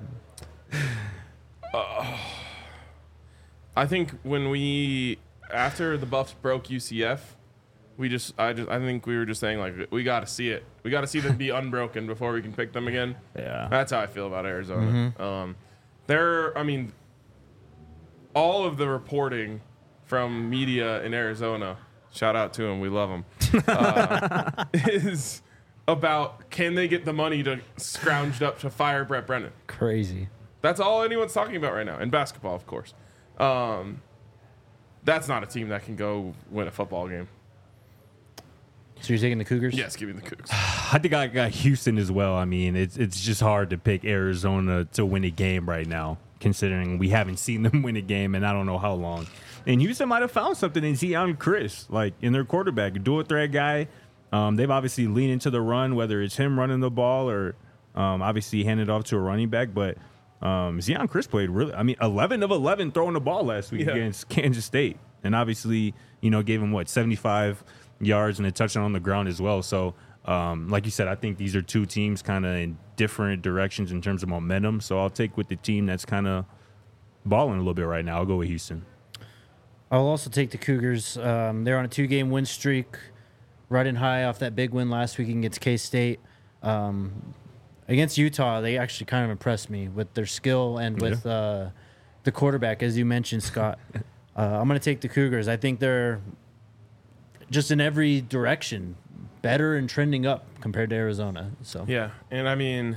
I think when we after the Buffs broke U C F, we just I just I think we were just saying like we got to see it. We got to see them be unbroken before we can pick them again. Yeah. That's how I feel about Arizona. Um, they're I mean, all of the reporting from media in Arizona, shout out to them, we love them, uh, is about can they get the money to scrounged up to fire Brett Brennan. Crazy. That's all anyone's talking about right now. In basketball, of course. Um, that's not a team that can go win a football game. So you're taking the Cougars? Yes, give me the Cougs. I think I got Houston as well. I mean, it's it's just hard to pick Arizona to win a game right now, considering we haven't seen them win a game in I don't know how long. And Houston might have found something in Zion Chris, like in their quarterback, a dual threat guy. Um, they've obviously leaned into the run, whether it's him running the ball or um, obviously handed off to a running back. But Um, Zion Chris played really. I mean, eleven of eleven throwing the ball last week Yeah. against Kansas State, and obviously, you know, gave him what seventy-five yards and a touchdown on the ground as well. So, um, like you said, I think these are two teams kind of in different directions in terms of momentum. So I'll take with the team that's kind of balling a little bit right now. I'll go with Houston. I'll also take the Cougars. Um, they're on a two-game win streak, riding high off that big win last week against K-State. Um, against Utah, they actually kind of impressed me with their skill and with uh, the quarterback, as you mentioned, Scott. uh, I'm going to take the Cougars. I think they're just in every direction better and trending up compared to Arizona. So Yeah, and I mean,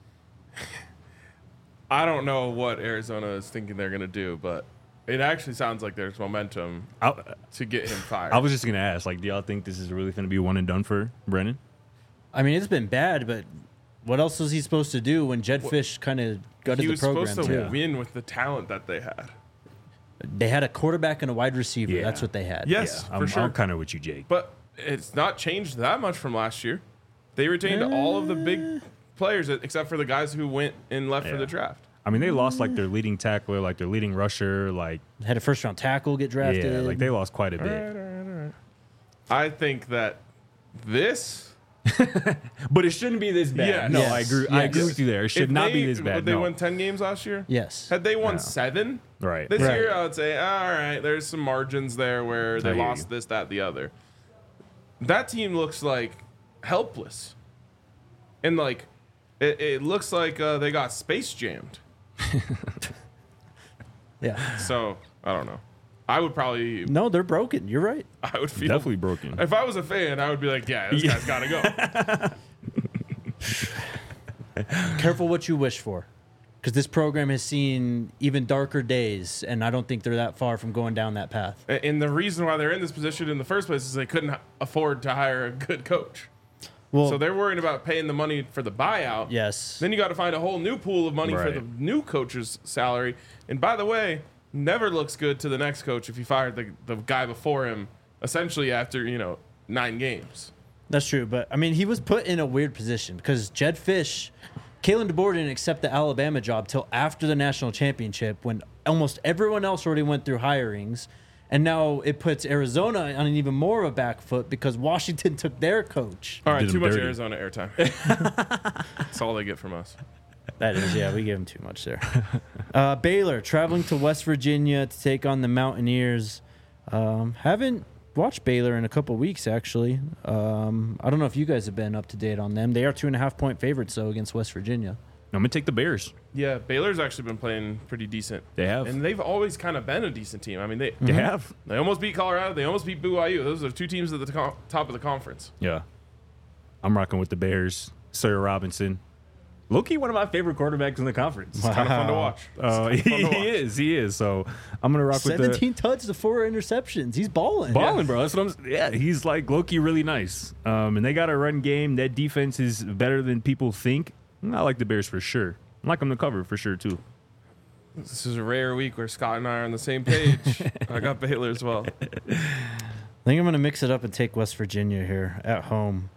I don't know what Arizona is thinking they're going to do, but it actually sounds like there's momentum I, to get him fired. I was just gonna ask, like, do y'all think this is really gonna be one and done for Brennan? I mean, it's been bad, but what else was he supposed to do when Jed Fish kind of gutted he the was program? supposed to too? win with the talent that they had. They had a quarterback and a wide receiver. Yeah. That's what they had. Yes, I'm, for sure. I'm kind of with you, Jake. But it's not changed that much from last year. They retained all of the big players except for the guys who went and left for Yeah. the draft. I mean, they lost like their leading tackler, like their leading rusher, like Had a first round tackle get drafted. yeah, like they lost quite a All bit. right, all right, all right. I think that this. But it shouldn't be this bad. Yes. No, Yes. I agree. I Yes. agree with you there. It should if not they, be this bad. Would they no. won ten games last year? Yes. Had they won No. seven Right. this Right. year, I would say, all right, there's some margins there where I they hear lost you. this, that, the other. That team looks like helpless. And, like, it, it looks like uh, they got space jammed. Yeah. So, I don't know. I would probably, No, they're broken. You're right. I would feel. Definitely broken. If I was a fan, I would be like, yeah, this Yeah. guy's got to go. Careful what you wish for, because this program has seen even darker days, and I don't think they're that far from going down that path. And the reason why they're in this position in the first place is they couldn't afford to hire a good coach. Well, So they're worried about paying the money for the buyout. yes. Then you got to find a whole new pool of money for Right. the new coach's salary. And by the way, never looks good to the next coach if you fired the, the guy before him, essentially after, you know, nine games. That's true, but I mean, he was put in a weird position because Jed Fish, Kalen DeBoer didn't accept the Alabama job till after the national championship when almost everyone else already went through hirings, and now it puts Arizona on an even more of a back foot because Washington took their coach. All right, Did too him much dirty. Arizona airtime. That's all they get from us. That is, yeah, we gave him too much there. Uh, Baylor traveling to West Virginia to take on the Mountaineers. Um, haven't watched Baylor in a couple weeks, actually. Um, I don't know if you guys have been up to date on them. They are two and a half point favorites, though, against West Virginia. I'm gonna take the Bears. Yeah, Baylor's actually been playing pretty decent. They have. And they've always kind of been a decent team. I mean, they They have. they almost beat Colorado. They almost beat B Y U. Those are two teams at the to- top of the conference. Yeah. I'm rocking with the Bears. Sawyer Robinson. Low-key one of my favorite quarterbacks in the conference. It's kind of fun to watch. Uh, It's he, kinda fun to he watch. is. He is. So I'm gonna rock with the seventeen touchdowns to four interceptions. He's balling. balling, bro. That's what I'm. s- Yeah, he's like Loki, really nice. Um, and they got a run game. That defense is better than people think. I like the Bears for sure. I like them to cover for sure too. This is a rare week where Scott and I are on the same page. I got Baylor as well. I think I'm going to mix it up and take West Virginia here at home.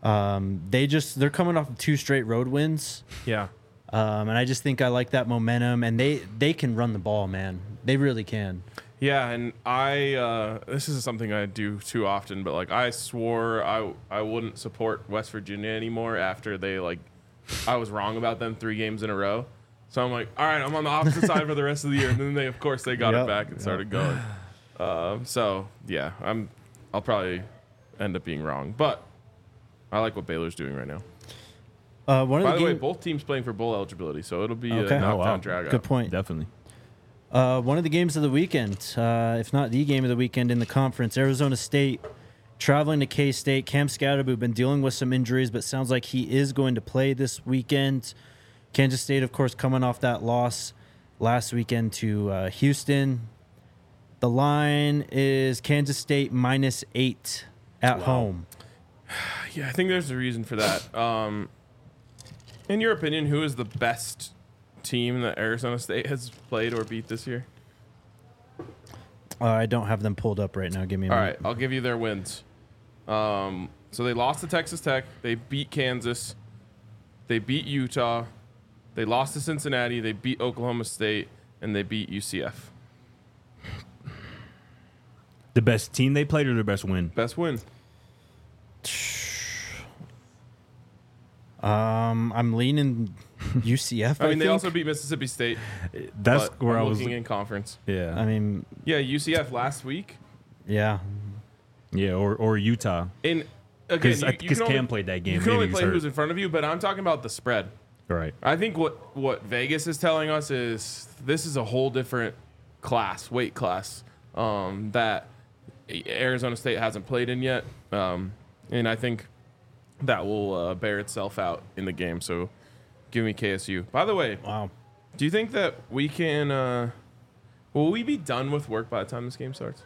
Um, they just they're coming off of two straight road wins, Yeah. um, and I just think I like that momentum. And they they can run the ball, man. They really can. Yeah, and I uh, this is something I do too often, but like I swore I I wouldn't support West Virginia anymore after they like I was wrong about them three games in a row. So I'm like, all right, I'm on the opposite side for the rest of the year, and then they of course they got Yep, it back and started going. Um, so yeah, I'm I'll probably end up being wrong, but I like what Baylor's doing right now. Uh, one of By the the way, game- both teams playing for bowl eligibility, so it'll be Okay. a Oh, knockdown wow. drag good out. point. Definitely. Uh, one of the games of the weekend, uh, if not the game of the weekend in the conference, Arizona State traveling to K-State. Cam Scatterbo been dealing with some injuries, but sounds like he is going to play this weekend. Kansas State, of course, coming off that loss last weekend to uh, Houston. The line is Kansas State minus eight at home. Yeah, I think there's a reason for that. Um, in your opinion, who is the best team that Arizona State has played or beat this year? Uh, I don't have them pulled up right now. Give me a All minute. right, I'll give you their wins. Um, so they lost to Texas Tech. They beat Kansas. They beat Utah. They lost to Cincinnati. They beat Oklahoma State, and they beat U C F. The best team they played or the best win? Best win. Um, I'm leaning U C F. I mean, I they think. also beat Mississippi State. That's but where I'm I was looking in conference. Yeah. I mean, Yeah, U C F last week. yeah. Yeah, or, or Utah. In again, Because you, you because can only, Cam played that game. you can Maybe only he play was who's hurt. in front of you, but I'm talking about the spread. Right. I think what what Vegas is telling us is this is a whole different class, weight class, um, that Arizona State hasn't played in yet, um, and I think that will uh, bear itself out in the game. So, give me K S U. By the way, Wow. do you think that we can? Uh, will we be done with work by the time this game starts?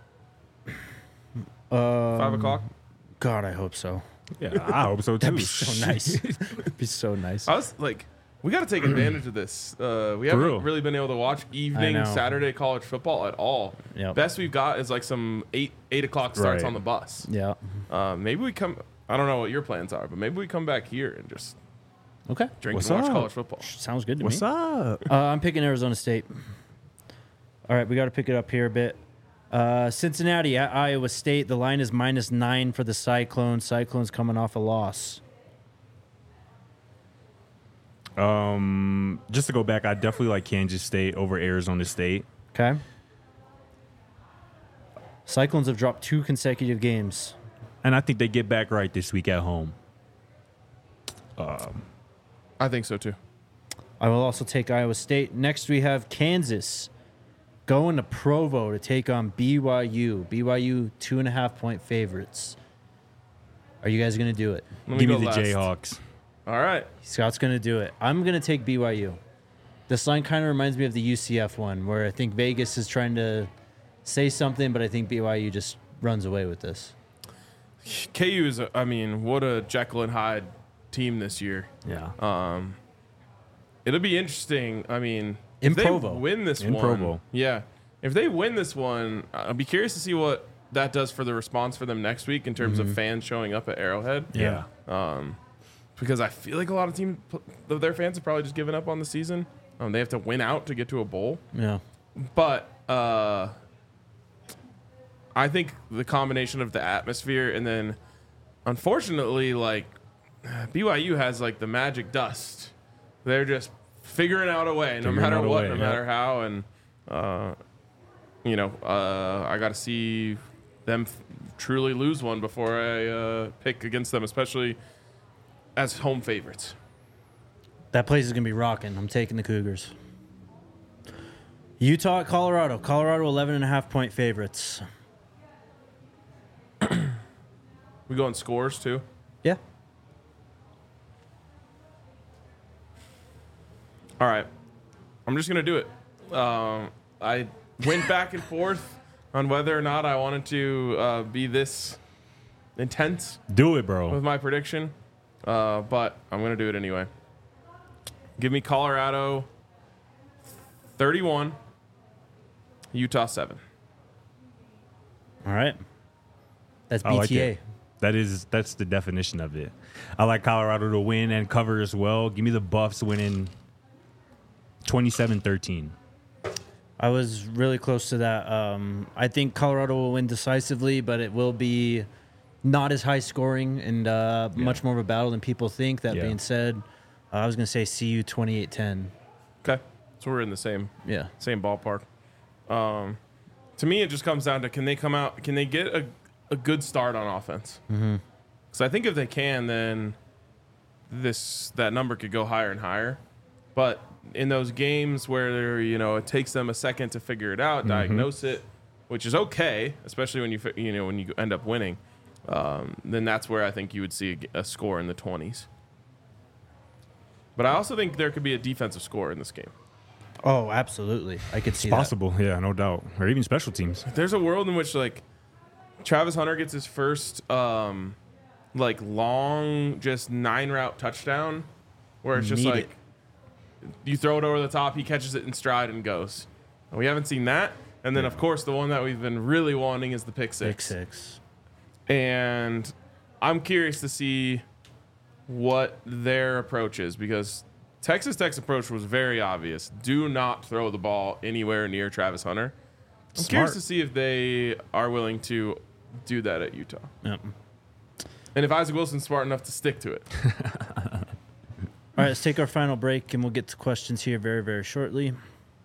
Um, Five o'clock. God, I hope so. Yeah, I hope so too. That'd be so nice. That'd be so nice. I was like, we got to take advantage of this. Uh, we haven't real. really been able to watch evening know. Saturday college football at all. Yep. Best we've got is like some eight eight o'clock starts Right. on the bus. Yeah. Uh, maybe we come. I don't know what your plans are, but maybe we come back here and just Okay. drink What's and watch up? college football. Sounds good to What's me. up? Uh, I'm picking Arizona State. All right, we got to pick it up here a bit. Uh, Cincinnati at Iowa State. The line is minus nine for the Cyclones. Cyclones coming off a loss. Um, just to go back, I definitely like Kansas State over Arizona State. Okay. Cyclones have dropped two consecutive games. And I think they get back right this week at home. I think so too. I will also take Iowa State. Next, we have Kansas going to Provo to take on B Y U. B Y U, two and a half point favorites. Are you guys going to do it? Let Give me go the last. Jayhawks. All right. Scott's going to do it. I'm going to take B Y U. This line kind of reminds me of the U C F one, where I think Vegas is trying to say something, but I think B Y U just runs away with this. K U is. A, I mean, what a Jekyll and Hyde team this year. Yeah. Um, it'll be interesting. I mean, In if they Provo. win this In one, Provo. yeah. If they win this one, I'll be curious to see what that does for the response for them next week in terms Mm-hmm. of fans showing up at Arrowhead. Yeah. Um, because I feel like a lot of teams, their fans have probably just given up on the season. Um, they have to win out to get to a bowl. Yeah. But uh, I think the combination of the atmosphere and then, unfortunately, like B Y U has like the magic dust. They're just figuring out a way, no Figuring matter out a what, way, no yeah. matter how, and uh, you know, uh, I got to see them f- truly lose one before I uh, pick against them, especially as home favorites. That place is going to be rocking. I'm taking the Cougars. Utah at Colorado. Colorado, eleven and a half point favorites. We going scores too. Yeah. All right. I'm just going to do it. Um, I went back and forth on whether or not I wanted to uh, be this intense Do it, bro. with my prediction, uh, but I'm going to do it anyway. Give me Colorado thirty-one, Utah seven. All right. That's I like B T A. it. That is that's the definition of it. I like Colorado to win and cover as well. Give me the Buffs winning twenty-seven thirteen. I was really close to that. Um, I think Colorado will win decisively, but it will be not as high scoring and uh, Yeah. much more of a battle than people think. That Yeah. being said, uh, I was going to say C U twenty-eight ten. Okay. So we're in the same Yeah. same ballpark. Um, to me, it just comes down to can they come out? Can they get a, a good start on offense? Mm-hmm. Because I think if they can, then this that number could go higher and higher. But in those games where you know it takes them a second to figure it out, diagnose it, which is okay, especially when you fi- you know when you end up winning, um, then that's where I think you would see a, a score in the twenties. But I also think there could be a defensive score in this game. Oh, absolutely. I could see that. Possible, yeah, no doubt. Or even special teams. There's a world in which like Travis Hunter gets his first um, like long just nine route touchdown, where it's just Need like it. you throw it over the top, he catches it in stride and goes. And we haven't seen that. And then of course the one that we've been really wanting is the pick six. Pick six. And I'm curious to see what their approach is because Texas Tech's approach was very obvious. Do not throw the ball anywhere near Travis Hunter. I'm Smart. curious to see if they are willing to do that at Utah. Yep. And if Isaac Wilson's smart enough to stick to it. All right, let's take our final break, and we'll get to questions here very, very shortly.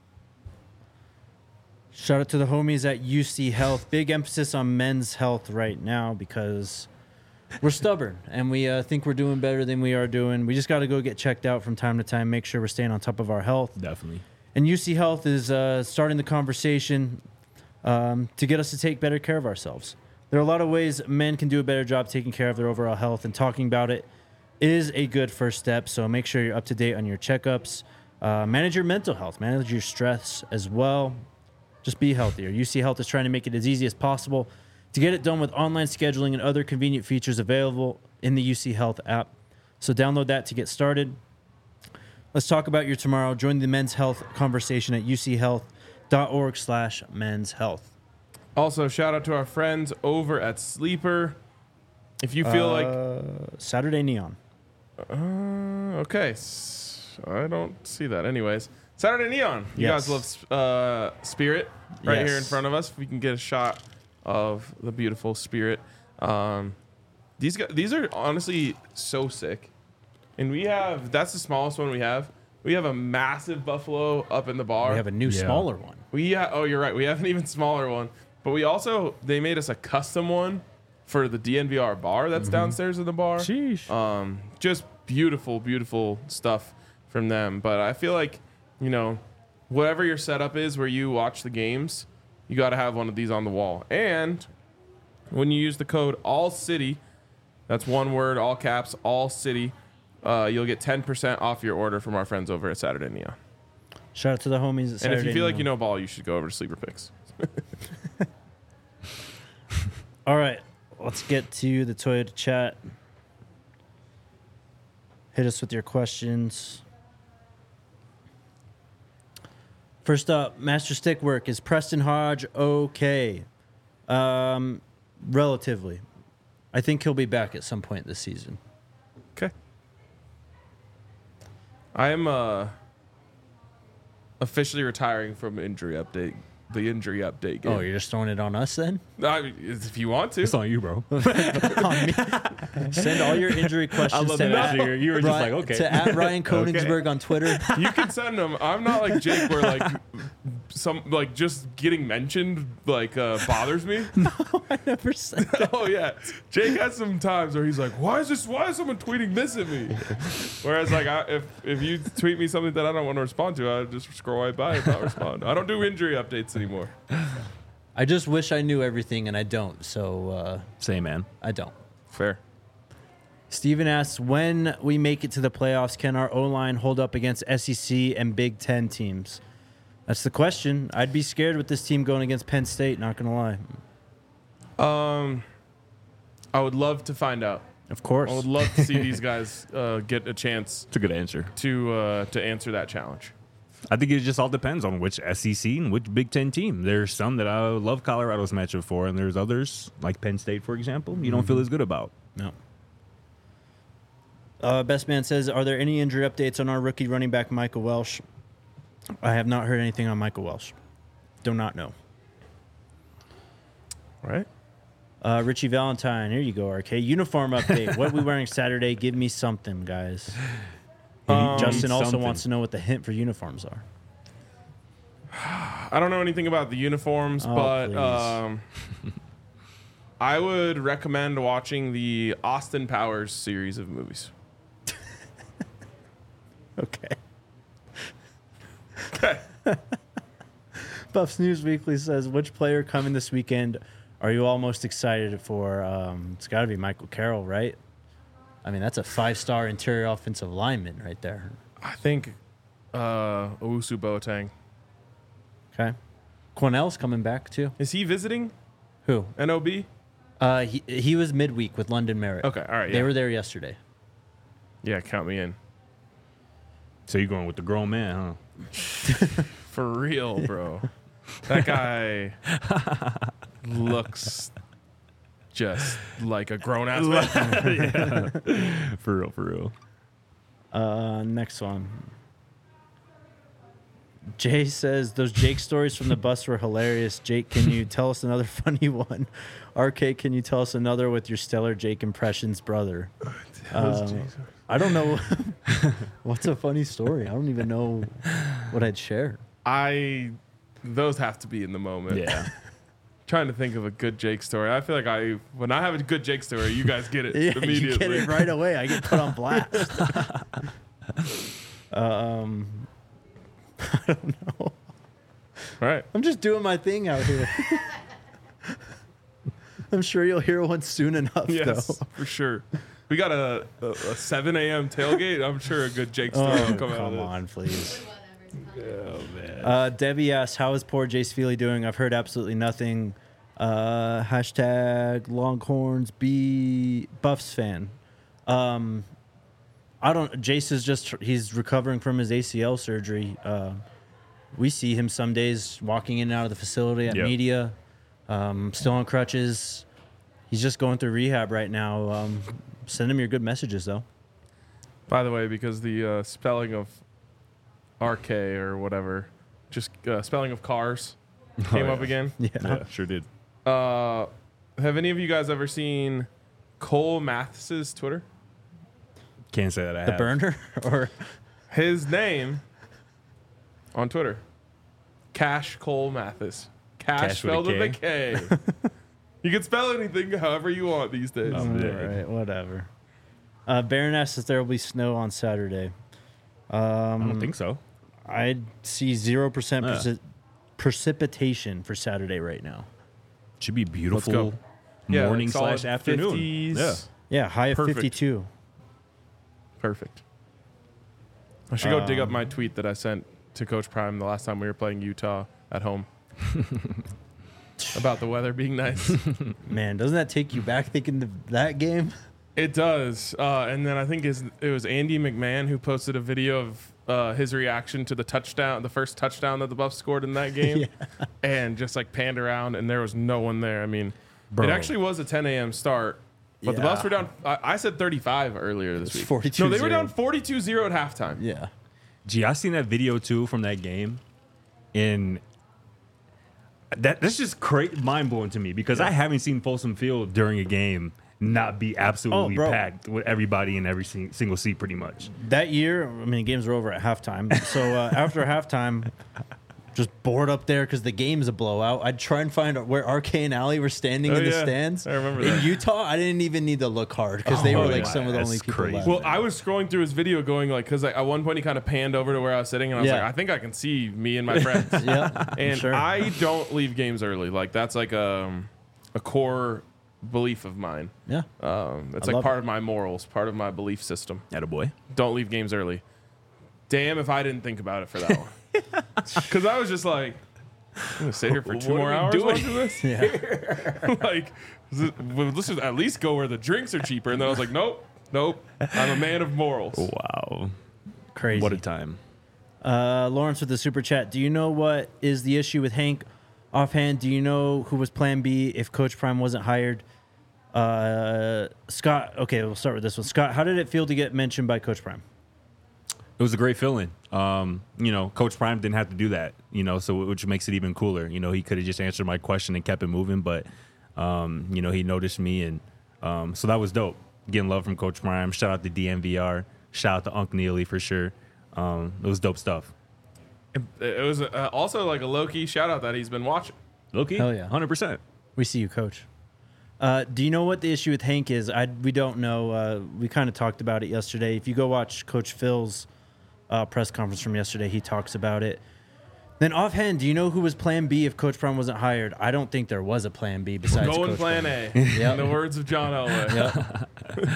Shout out to the homies at U C Health. Big emphasis on men's health right now because we're stubborn, and we uh, think we're doing better than we are doing. We just got to go get checked out from time to time, make sure we're staying on top of our health. Definitely. And U C Health is uh, starting the conversation um, to get us to take better care of ourselves. There are a lot of ways men can do a better job taking care of their overall health, and talking about it is a good first step. So make sure you're up to date on your checkups. Uh, manage your mental health. Manage your stress as well. Just be healthier. U C Health is trying to make it as easy as possible to get it done with online scheduling and other convenient features available in the U C Health app. So download that to get started. Let's talk about your tomorrow. Join the men's health conversation at uchealth.org slash men's health. Also, shout out to our friends over at Sleeper. If you feel like... Uh, Saturday Neon. Uh, okay. S- I don't see that. Anyways, Saturday Neon. You Yes. guys love uh, Spirit right Yes. here in front of us. If we can get a shot of the beautiful Spirit. Um, these guys, these are honestly so sick. And we have, that's the smallest one we have. We have a massive Buffalo up in the bar. We have a new, Yeah. smaller one. We ha- oh, you're right. We have an even smaller one. But we also, they made us a custom one for the D N V R bar that's downstairs in the bar. Sheesh. Um, just beautiful, beautiful stuff from them. But I feel like, you know, whatever your setup is where you watch the games, you got to have one of these on the wall. And when you use the code ALLCITY, that's one word, all caps, ALLCITY, uh, you'll get ten percent off your order from our friends over at Saturday Neon. Shout out to the homies at And Saturday if you feel like you Neon. know ball, you should go over to Sleeper Picks. All right, let's get to the Toyota chat. Hit us with your questions. First up, Master Stick Work. Is Preston Hodge okay? Um, relatively. I think he'll be back at some point this season. Okay. I am uh, officially retiring from injury update. The injury update game. Oh, you're just throwing it on us then? I, if you want to. It's on you, bro. Send all your injury questions love to, that. at, You were- you were just Ryan- like, okay. to at Ryan Koenigsberg on Twitter. You can send them. I'm not like Jake, where like some like just getting mentioned like uh, bothers me. I never said that. Oh yeah, Jake has some times where he's like, "Why is this? Why is someone tweeting this at me?" Whereas like, I, if if you tweet me something that I don't want to respond to, I just scroll right by and not respond. I don't do injury updates anymore. I just wish I knew everything, and I don't, so uh, Same, man. I don't. Fair. Steven asks, when we make it to the playoffs, can our O-line hold up against S E C and Big Ten teams? That's the question. I'd be scared with this team going against Penn State, not going to lie. Um, I would love to find out. Of course. I would love to see these guys uh, get a chance It's a good answer. to uh, to answer that challenge. I think it just all depends on which S E C and which Big Ten team. There's some that I love Colorado's matchup for, and there's others, like Penn State, for example, you don't feel as good about. No. Uh, Best Man says, are there any injury updates on our rookie running back, Michael Welsh? I have not heard anything on Michael Welsh. Do not know. All right. Uh, Richie Valentine, here you go, R K. Uniform update. What are we wearing Saturday? Give me something, guys. Um, Justin also something. wants to know what the hint for uniforms are. I don't know anything about the uniforms, Oh, but please. um, I would recommend watching the Austin Powers series of movies. Okay. Okay. Buffs News Weekly says, which player coming this weekend are you all most excited for? Um, it's got to be Michael Carroll, right? I mean, that's a five-star interior offensive lineman right there. I think uh, Owusu Boateng. Okay. Cornell's coming back, too. Is he visiting Who? N O B? Uh, he, he was midweek with London Merritt. Okay, all right. They Yeah, were there yesterday. yeah count me in. So you're going with the grown man, huh? For real, bro. That guy looks just like a grown ass man. For real, for real. Uh, next one. Jay says those Jake stories from the bus were hilarious. Jake, can you tell us another funny one? R K, can you tell us another with your stellar Jake impressions, brother? Um, I don't know. What's a funny story? I don't even know what I'd share. I those have to be in the moment. Yeah. Trying to think of a good Jake story. I feel like I when I have a good Jake story, you guys get it Yeah, immediately. you get it right away. I get put on blast. um, I don't know. Right. I'm just doing my thing out here. I'm sure you'll hear one soon enough, Yes, though. for sure. We got a, a, a seven a.m. tailgate. I'm sure a good Jake story Oh, will come, come out of on, please. Oh, man. Uh, Debbie asks, how is poor Jace Feely doing? I've heard absolutely nothing. Uh, hashtag Longhorns B Buffs fan. Um, I don't. Jace is just he's recovering from his A C L surgery. Uh, we see him some days walking in and out of the facility at Yep. media. Um, still on crutches. He's just going through rehab right now. Um, send him your good messages though. By the way, because the uh, spelling of R K or whatever, just uh, spelling of cars came Oh, up yeah. again. Yeah. Yeah, sure did. Uh, have any of you guys ever seen Cole Mathis's Twitter? Can't say that I The have. burner or His name on Twitter, Cash Cole Mathis. Cash, Cash with a spelled with a K. You can spell anything however you want these days. Oh, all man. right, whatever. Uh, Baron asks if there will be snow on Saturday. Um, I don't think so. I see zero percent Yeah. preci- precipitation for Saturday right now. Should be beautiful go. Yeah, morning like solid slash afternoon. fifties. Yeah. Yeah, high of Perfect. fifty-two. Perfect. I should go dig up Um, my tweet that I sent to Coach Prime the last time we were playing Utah at home about the weather being nice. Man, doesn't that take you back thinking of that game? It does. Uh, and then I think his, it was Andy McMahon who posted a video of uh, his reaction to the touchdown, the first touchdown that the Buffs scored in that game, and just like panned around, and there was no one there. I mean, Bro. it actually was a ten a.m. start, but the Yeah. Buffs were down. I, I said thirty-five earlier this It's week. forty-two No, they were zero. down forty-two zero at halftime. Yeah. Gee, I seen that video too from that game, and that that's just cra- mind blowing to me because I haven't seen Folsom Field during a game not be absolutely Oh, bro. packed with everybody in every sing- single seat, pretty much. That year, I mean, games were over at halftime. So uh, after halftime, just bored up there because the game's a blowout. I'd try and find out where R K and Allie were standing Oh, in the yeah. stands. I remember In that. Utah, I didn't even need to look hard because they Oh, were like yeah. some of the That's only people crazy. left. Well, I was scrolling through his video going like, because like, at one point he kind of panned over to where I was sitting, and I was Yeah. like, I think I can see me and my friends. yeah, And sure. I don't leave games early. Like that's like a, a core belief of mine. yeah. Um, it's I like love part it. of my morals, part of my belief system. Attaboy. Don't leave games early. Damn if I didn't think about it for that one. Because I was just like, I'm gonna sit here for two What more are we hours doing? watching this. Yeah. Like, is it- well, let's just at least go where the drinks are cheaper. And then I was like, nope, nope. I'm a man of morals. Wow. Crazy. What a time. Uh, Lawrence with the super chat. Do you know what is the issue with Hank? Offhand, do you know who was Plan B if Coach Prime wasn't hired? Uh, Scott. Okay, we'll start with this one. Scott, how did it feel to get mentioned by Coach Prime? It was a great feeling. Um, you know, Coach Prime didn't have to do that, you know, so which makes it even cooler. You know, he could have just answered my question and kept it moving, but, um, you know, he noticed me. And um, so that was dope. Getting love from Coach Prime. Shout out to D M V R. Shout out to Unc Neely for sure. Um, it was dope stuff. It, it was uh, also like a low key shout out that he's been watching. Okay. Hell yeah. one hundred percent. We see you, Coach. Uh, do you know what the issue with Hank is? I we don't know. Uh, we kind of talked about it yesterday. If you go watch Coach Phil's uh, press conference from yesterday, he talks about it. Then offhand, do you know who was Plan B if Coach Prime wasn't hired? I don't think there was a Plan B besides Going Coach plan Prime. A. Yep. In the words of John Elway. Yep.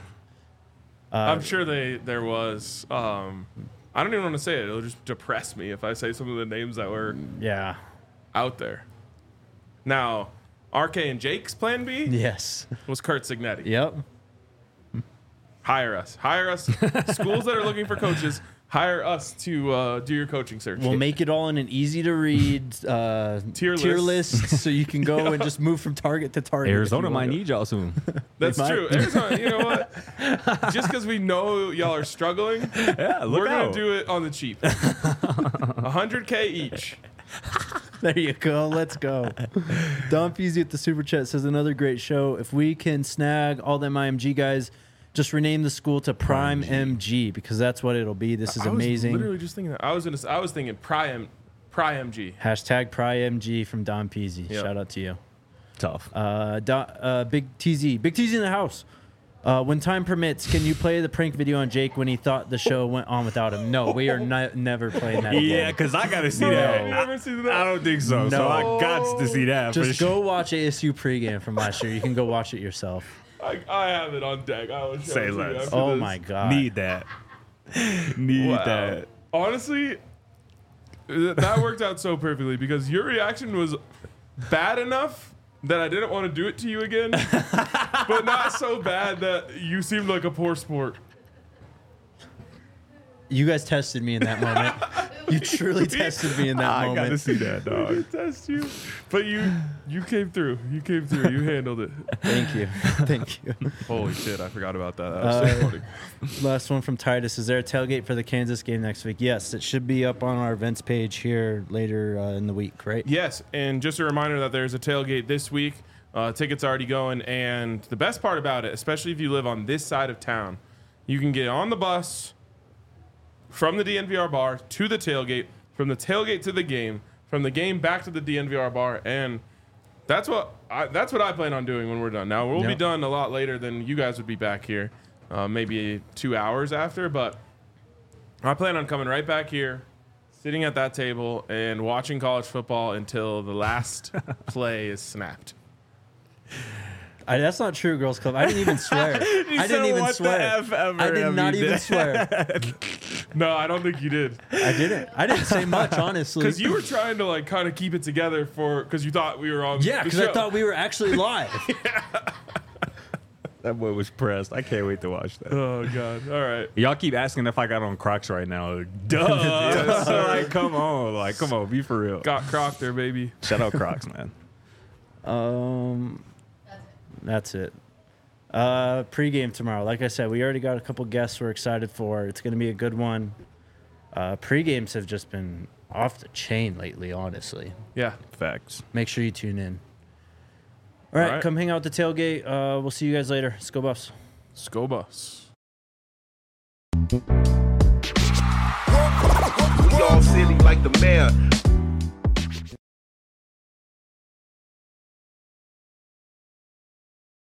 I'm sure they there was. Um, I don't even want to say it. It'll just depress me if I say some of the names that were Yeah. out there. Now, R K and Jake's Plan B Yes. was Kurt Signetti. Yep. Hire us. Hire us. Schools that are looking for coaches, hire us to uh, do your coaching search. We'll make it all in an easy to read uh, Tier tier list. list, so you can go and just move from target to target. if Arizona you might want. need y'all soon. That's They might. true. Arizona, you know what? Just because we know y'all are struggling, Yeah, look we're out. gonna do it on the cheap. one hundred K each. There you go. Let's go. Don Peasy at the Super Chat says, another great show. If we can snag all them I M G guys, just rename the school to Prime M G because that's what it'll be. This is I was amazing. literally just thinking that. I was gonna. I was thinking Prime, Prime M G. Hashtag Prime M G from Don Peasy. Yep. Shout out to you. Tough. Uh, Don, uh, Big T Z. Big T Z in the house. Uh, when time permits, can you play the prank video on Jake when he thought the show went on without him? No, we are ni- never playing that Yeah, again. because I got to see No, that. you never seen that? I don't think so. So No. I got to see that. for Just sure. go watch A S U pregame from last year. You can go watch it yourself. I, I have it on deck. I will show Say it to you less. after Oh this. my god. Need that. Need Wow. that. Honestly, th- that worked out so perfectly because your reaction was bad enough that I didn't want to do it to you again, but not so bad that you seemed like a poor sport. You guys tested me in that moment. You truly tested me in that I got to moment. see that, I dog. test you, but you you came through. You came through. You handled it. Thank you. Thank you. Holy shit! I forgot about that. That was Uh, so funny. Last one from Titus. Is there a tailgate for the Kansas game next week? Yes, it should be up on our events page here later uh, in the week, right? Yes, and just a reminder that there's a tailgate this week. Uh, tickets already going, and the best part about it, especially if you live on this side of town, you can get on the bus from the D N V R bar to the tailgate, from the tailgate to the game, from the game back to the D N V R bar, and that's what I, that's what I plan on doing when we're done. Now we'll be Yep. done a lot later than you guys would be back here, uh, maybe two hours after, but I plan on coming right back here, sitting at that table, and watching college football until the last play is snapped. I, that's not true, Girls Club. I didn't even swear. I said, didn't even "What the swear. F ever I did have not you even done?" swear. No, I don't think you did. I didn't. I didn't say much, honestly. Because you were trying to like kind of keep it together for because you thought we were on. yeah, the because I show. thought we were actually live. That boy was pressed. I can't wait to watch that. Oh god! All right. Y'all keep asking if I got on Crocs right now. Duh. Yes, sir. Like, come on. Like, come on. Be for real. Got Croc there, baby. Shout out Crocs, man. Um, that's it. Uh, pregame tomorrow. Like I said, we already got a couple guests we're excited for. It's going to be a good one. Uh, pregames have just been off the chain lately, honestly. Yeah. Facts. Make sure you tune in. All right, All right. come hang out at the tailgate. Uh, we'll see you guys later. Let's go, Buffs. Scobus. We all silly like the mayor.